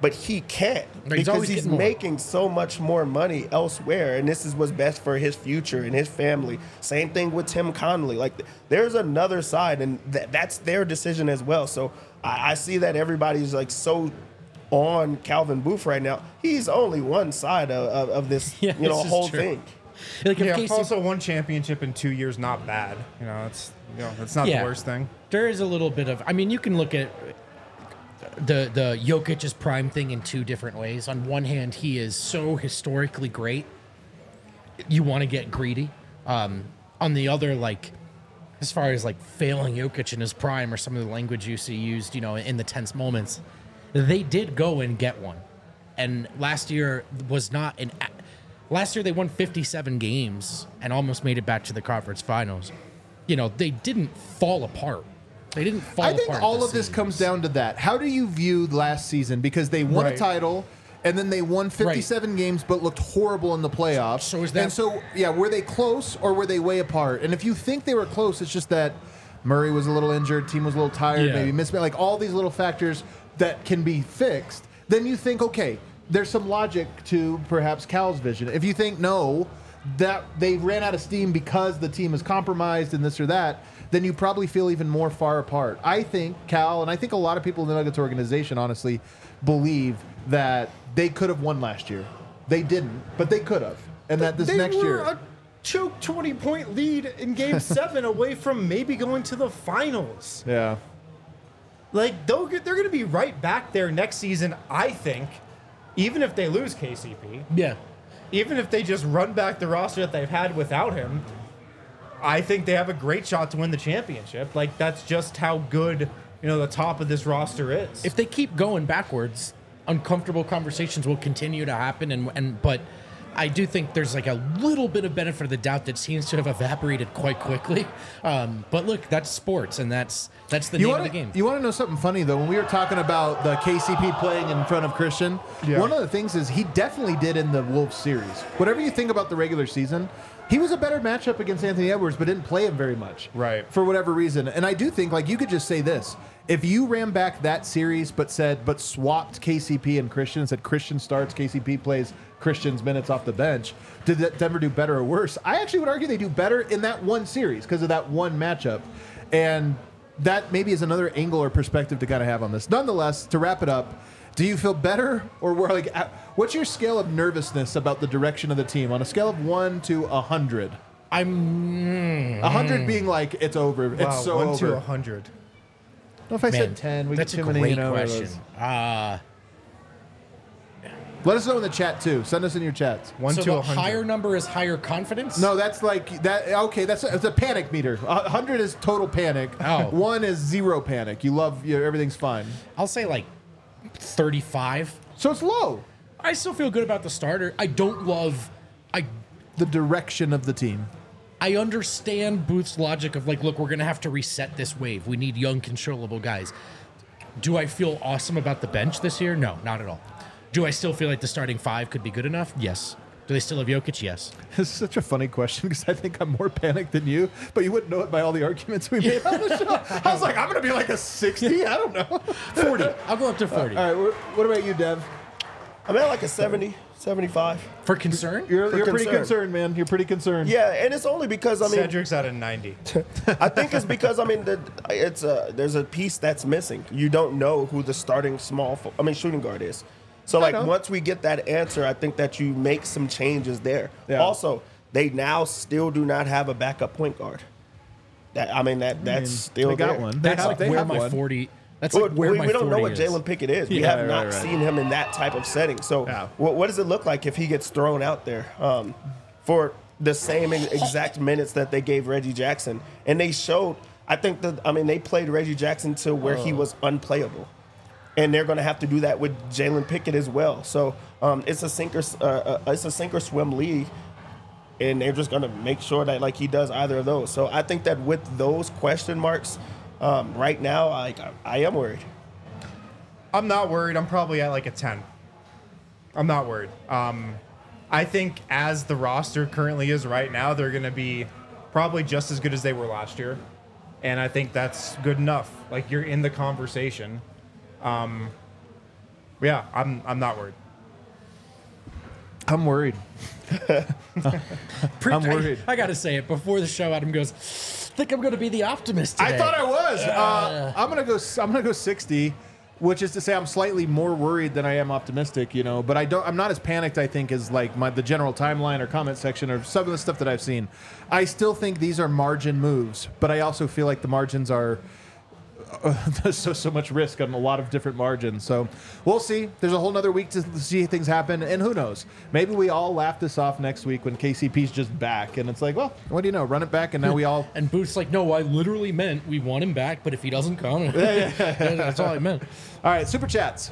S4: but he can't
S1: He's
S4: because
S1: always
S4: he's
S1: getting more.
S4: making so much more money elsewhere, and this is what's best for his future and his family. Same thing with Tim Connolly. Like, th- there's another side, and th- that's their decision as well. So I, I see that everybody's like so on Calvin Booth right now. He's only one side of, of, of this,
S1: Yeah,
S4: you know,
S1: this is
S4: whole
S1: true.
S4: thing.
S1: Like if
S3: Yeah,
S1: Casey,
S3: also one championship in two years, not bad. You know, it's you know, it's not
S1: Yeah.
S3: the worst thing.
S1: there is a little bit of. I mean, you can look at the the Jokic's prime thing in two different ways. On one hand, he is so historically great, you want to get greedy. Um, on the other, like as far as like failing Jokic in his prime or some of the language you see used, you know, in the tense moments, they did go and get one. And last year was not an. Last year they won fifty-seven games and almost made it back to the conference finals. You know, they didn't fall apart. They didn't fall
S2: I think
S1: apart.
S2: all
S1: the
S2: of this
S1: seams.
S2: comes down to that. How do you view last season? Because they won a
S3: Right.
S2: title, and then they won fifty-seven games, but looked horrible in the playoffs.
S1: So is that-
S2: And so, yeah, were they close or were they way apart? And if you think they were close, it's just that Murray was a little injured, team was a little tired,
S1: Yeah.
S2: maybe missed, like all these little factors that can be fixed. Then you think, okay, there's some logic to perhaps Cal's vision. If you think no, that they ran out of steam because the team is compromised and this or that, then you probably feel even more far apart. I think Cal, and I think a lot of people in the Nuggets organization, honestly, believe that they could have won last year. They didn't, but they could have. And that this
S3: they
S2: next
S3: were
S2: year.
S3: a choke twenty point lead in Game Seven, away from maybe going to the finals.
S2: yeah.
S3: Like they'll get, they're going to be right back there next season. I think, even if they lose K C P,
S1: Yeah.
S3: even if they just run back the roster that they've had without him, I think they have a great shot to win the championship. Like that's just how good, you know, the top of this roster is.
S1: If they keep going backwards, uncomfortable conversations will continue to happen. And and but I do think there's like a little bit of benefit of the doubt that seems to have evaporated quite quickly. Um, but look, that's sports, and that's that's the
S2: You
S1: name
S2: want
S1: of the game.
S2: You want to know something funny though? When we were talking about the K C P playing in front of Christian,
S3: Yeah.
S2: one of the things is he definitely did in the Wolves series. Whatever you think about the regular season, he was a better matchup against Anthony Edwards, but didn't play him very much,
S3: Right.
S2: For whatever reason. And I do think like you could just say this: if you ran back that series, but said but swapped K C P and Christian, said Christian starts, K C P plays Christian's minutes off the bench, did that Denver do better or worse? I actually would argue they do better in that one series because of that one matchup. And that maybe is another angle or perspective to kind of have on this. Nonetheless, to wrap it up, do you feel better or were like, uh, what's your scale of nervousness about the direction of the team on a scale of one to a hundred?
S1: I'm
S2: A hundred being like it's over,
S3: wow,
S2: it's so
S3: one
S2: over.
S3: to a hundred.
S2: What if I
S1: man,
S2: said ten? We
S1: that's
S2: get
S1: a
S2: too many,
S1: great
S2: you know, of
S1: question.
S2: those.
S1: Uh,
S2: Let us know in the chat too. Send us in your chats.
S3: One
S1: so
S3: to
S1: the
S3: a hundred.
S1: higher number is higher confidence.
S2: No, that's like that. Okay, that's a, it's a panic meter. A hundred is total panic.
S1: Oh.
S2: One is zero panic. You love you, everything's fine.
S1: I'll say like thirty-five.
S2: So it's low.
S1: I still feel good about the starter. I don't love. I
S2: The direction of the team.
S1: I understand Booth's logic of like, look, we're gonna have to reset this wave. We need young, controllable guys. Do I feel awesome about the bench this year? No, not at all. Do I still feel like the starting five could be good enough? Yes. Do they still have Jokic? Yes.
S2: This is such a funny question because I think I'm more panicked than you, but you wouldn't know it by all the arguments we made on the show. I was like, I'm going to be like a sixty. I don't know.
S1: forty. I'll go up to forty.
S2: All right. wh- What about you, Dev?
S4: I'm at like a seventy, seventy-five.
S1: For concern?
S2: You're,
S4: For
S2: you're pretty
S4: concern.
S2: concerned, man. You're pretty concerned.
S4: Yeah, and it's only because I mean,
S3: Cedric's at a ninety.
S4: I think it's because I mean, the, it's a there's a piece that's missing. You don't know who the starting small, fo- I mean, shooting guard is. So like
S2: know.
S4: once we get that answer, I think that you make some changes there.
S2: Yeah.
S4: Also, they now still do not have a backup point guard. That I mean that that's still
S2: they got
S4: there.
S2: one. They
S1: That's
S2: have,
S1: like
S2: they
S1: where
S2: have
S1: my
S2: one.
S1: forty. That's
S4: Well,
S1: like where
S4: we,
S1: my
S4: we don't know
S1: forty
S4: what
S1: is.
S4: Jalen Pickett is. We
S1: Yeah,
S4: have
S2: right,
S4: not
S2: right, right.
S4: seen him in that type of setting. So,
S2: Yeah.
S4: what, what does it look like if he gets thrown out there um, for the same ex- exact minutes that they gave Reggie Jackson? And they showed, I think that, I mean, they played Reggie Jackson to where he was unplayable. And they're going to have to do that with Jalen Pickett as well. So, um, it's a sink or s- uh, uh, it's a sink or swim league. And they're just going to make sure that like he does either of those. So I think that with those question marks, um, right now, I, I am worried.
S3: I'm not worried. I'm probably at like a ten. I'm not worried. Um, I think as the roster currently is right now, they're going to be probably just as good as they were last year. And I think that's good enough. Like, you're in the conversation. Um, Yeah, I'm I'm not worried.
S2: I'm worried.
S1: Pre-
S2: I'm worried.
S1: I, I got to say it before the show. Adam goes, "Think I'm going to be the optimist today."
S2: I thought I was. Uh, I'm gonna go. I'm gonna go sixty, which is to say I'm slightly more worried than I am optimistic. You know, but I don't. I'm not as panicked. I think as like my the general timeline or comment section or some of the stuff that I've seen. I still think these are margin moves, but I also feel like the margins are. Uh, there's so so much risk on a lot of different margins. So we'll see. There's a whole nother week to see things happen, and who knows? Maybe we all laugh this off next week when K C P's just back, and it's like, well, what do you know? Run it back, and now we all.
S1: And Booth's like, "No, I literally meant we want him back, but if he doesn't come, that's all I meant."
S2: All right, super chats.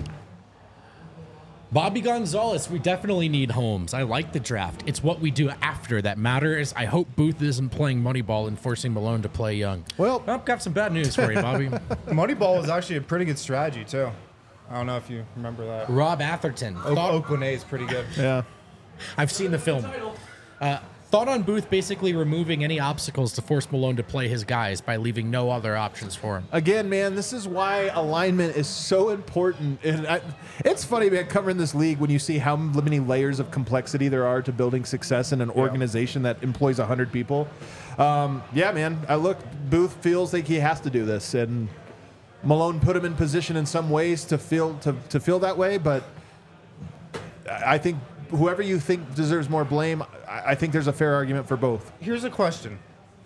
S1: Bobby Gonzalez, we definitely need Holmes. I like the draft. It's what we do after that matters. I hope Booth isn't playing Moneyball and forcing Malone to play young.
S2: Well-
S1: I've got some bad news for you, Bobby.
S3: Moneyball is actually a pretty good strategy too. I don't know if you remember that.
S1: Rob Atherton.
S3: O-
S1: Thought-
S3: Oakland A is pretty good.
S2: Yeah.
S1: I've seen the film. Uh, thought on Booth basically removing any obstacles to force Malone to play his guys by leaving no other options for him.
S2: Again, man, this is why alignment is so important. And I, it's funny, man, covering this league when you see how many layers of complexity there are to building success in an organization that employs one hundred people. Um, yeah, man, I look, Booth feels like he has to do this. And Malone put him in position in some ways to feel, to, to feel that way. But I think whoever you think deserves more blame, I, I think there's a fair argument for both.
S3: Here's a question.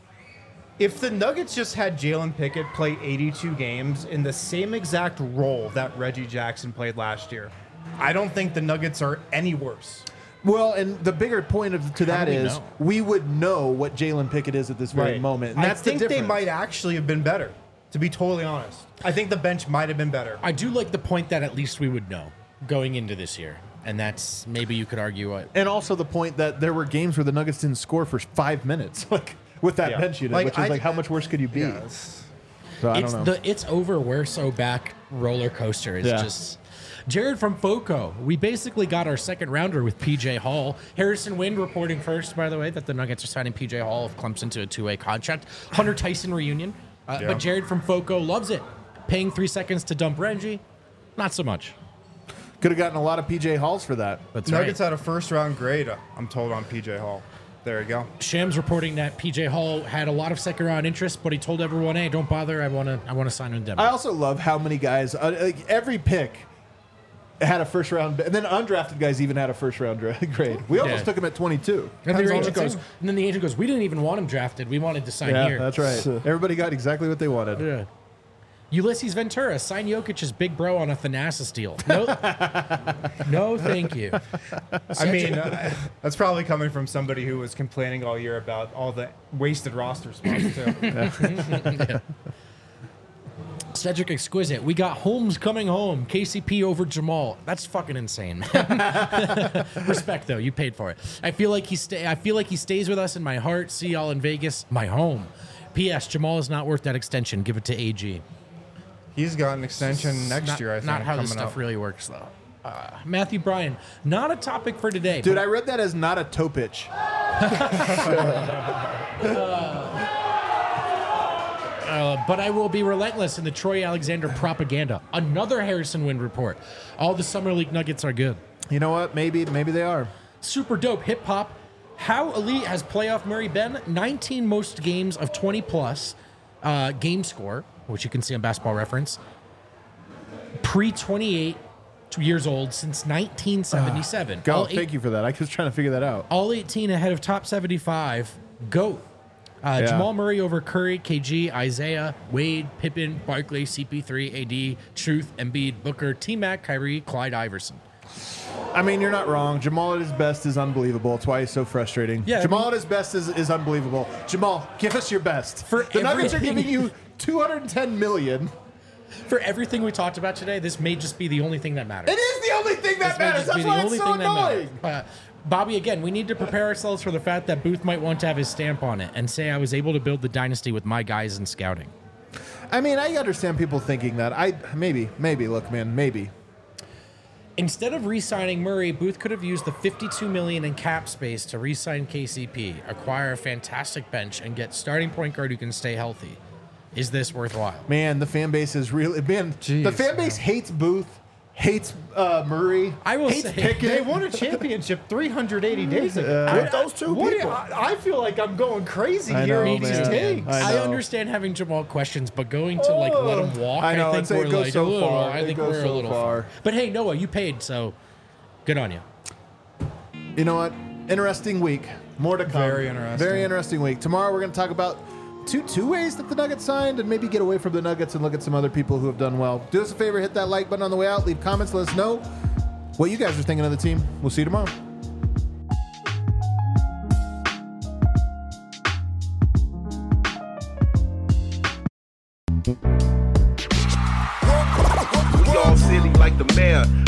S3: If the Nuggets just had Jalen Pickett play eighty-two games in the same exact role that Reggie Jackson played last year, I don't think the Nuggets are any worse.
S2: Well, and the bigger point of, to that
S1: do we
S2: is
S1: know?
S2: we would know what Jalen Pickett is at this very moment. And that's
S3: I think
S2: the
S3: they
S2: difference.
S3: might actually have been better, to be totally honest. I think the bench might have been better.
S1: I do like the point that at least we would know going into this year. And that's maybe you could argue what.
S2: And also the point that there were games where the Nuggets didn't score for five minutes, like with that
S3: Yeah.
S2: bench unit,
S3: Like,
S2: which is
S3: I-
S2: like how much worse could you be?
S3: Yeah, it's-
S2: So I
S1: It's
S2: don't know.
S1: the it's over, we're so back roller coaster. It's
S2: Yeah.
S1: just Jared from Foco. We basically got our second rounder with P J Hall. Harrison Wind reporting first, by the way, that the Nuggets are signing P J Hall of Clemson to a two-way contract. Hunter Tyson reunion. Uh,
S3: Yeah.
S1: But Jared from Foco loves it. Paying three seconds to dump Reggie, not so much.
S2: Could have gotten a lot of P J Halls for that.
S1: That's
S3: Nuggets
S1: right.
S3: had a first round grade, uh, I'm told, on P J Hall. There you go.
S1: Shams reporting that P J Hall had a lot of second round interest, but he told everyone, "Hey, don't bother. I want to. I want to sign in Denver."
S2: I also love how many guys, uh, like every pick had a first round, and then undrafted guys even had a first round dra- grade. We almost
S1: Yeah.
S2: took him at twenty-two.
S1: and,
S3: Depends
S1: the
S3: on
S1: agent
S3: the
S1: goes,
S3: team.
S1: and then the agent goes, "We didn't even want him drafted. We wanted to sign
S2: Yeah,
S1: here."
S2: that's right. Everybody got exactly what they wanted.
S1: Yeah. Ulysses Ventura, sign Jokic's big bro on a Thanasis deal. No, no, thank you.
S3: I mean, uh, that's probably coming from somebody who was complaining all year about all the wasted roster spots, too.
S1: Cedric Exquisite, we got Holmes coming home. K C P over Jamal. That's fucking insane, man. Respect though, you paid for it. I feel like he stay. I feel like he stays with us in my heart. See y'all in Vegas, my home. P S. Jamal is not worth that extension. Give it to A G.
S3: He's got an extension next
S1: not,
S3: year, I think.
S1: Not how this
S3: coming
S1: stuff
S3: up.
S1: really works though. Uh, Matthew Bryan, not a topic for today.
S2: Dude,
S1: but-
S2: I read that as not a toe pitch.
S1: Uh, but I will be relentless in the Troy Alexander propaganda. Another Harrison Wind report. All the Summer League Nuggets are good.
S2: You know what? Maybe, maybe they are.
S1: Super dope hip hop. How elite has playoff Murray been? nineteen most games of twenty plus uh, game score, which you can see on Basketball Reference. Pre twenty-eight years old since nineteen seventy-seven.
S2: Go.
S1: all,
S2: Thank
S1: eight,
S2: you for that. I was trying to figure that out.
S1: all eighteen ahead of top seventy-five. GOAT. Uh,
S2: Yeah.
S1: Jamal Murray over Curry, K G, Isaiah, Wade, Pippen, Barkley, C P three, A D, Truth, Embiid, Booker, T-Mac, Kyrie, Clyde Iverson.
S2: I mean, you're not wrong. Jamal at his best is unbelievable. That's why he's so frustrating.
S1: Yeah, I
S2: Jamal
S1: mean-
S2: at his best is, is unbelievable. Jamal, give us your best.
S1: For
S2: the Nuggets are
S1: everything-
S2: giving you two hundred ten million.
S1: For everything we talked about today, this may just be the only thing that matters.
S2: It is the only thing that
S1: This may
S2: matters.
S1: just be
S2: That's
S1: the
S2: why it's
S1: only
S2: so
S1: thing that
S2: annoying.
S1: matters. Uh, Bobby, again, we need to prepare ourselves for the fact that Booth might want to have his stamp on it and say I was able to build the dynasty with my guys in scouting.
S2: I mean, I understand people thinking that. I maybe, maybe. Look, man, maybe.
S1: Instead of re-signing Murray, Booth could have used the fifty-two million dollars in cap space to re-sign K C P, acquire a fantastic bench, and get starting point guard who can stay healthy. Is this worthwhile?
S2: Man, the fan base is really man. the
S3: Jeez,
S2: fan base hates Booth, hates uh, Murray.
S1: I will
S2: hates
S1: say-
S2: Pickett.
S3: They won a championship three hundred eighty days ago.
S4: With those two
S3: What do you-
S4: people.
S3: I, I feel like I'm going crazy
S2: I
S3: here
S2: know,
S3: in these
S2: man.
S3: takes.
S2: I
S1: I,
S2: know.
S1: understand having Jamal questions, but going to like let him walk,
S2: I know,
S1: I
S2: it's-
S1: think
S2: it
S1: we're
S2: goes
S1: like
S2: so
S1: a little.
S2: far.
S1: I
S2: It
S1: think
S2: goes
S1: we're
S2: so
S1: a little
S2: far.
S1: far. But hey, Noah, you paid, so good on you.
S2: You know what? Interesting week. More to come.
S3: Very interesting.
S2: Very interesting week. Tomorrow we're going to talk about two two ways that the Nuggets signed and maybe get away from the Nuggets and look at some other people who have done well. Do us a favor, hit that like button on the way out. Leave comments. Let us know what you guys are thinking of the team. We'll see you tomorrow.
S5: We all silly like the mayor.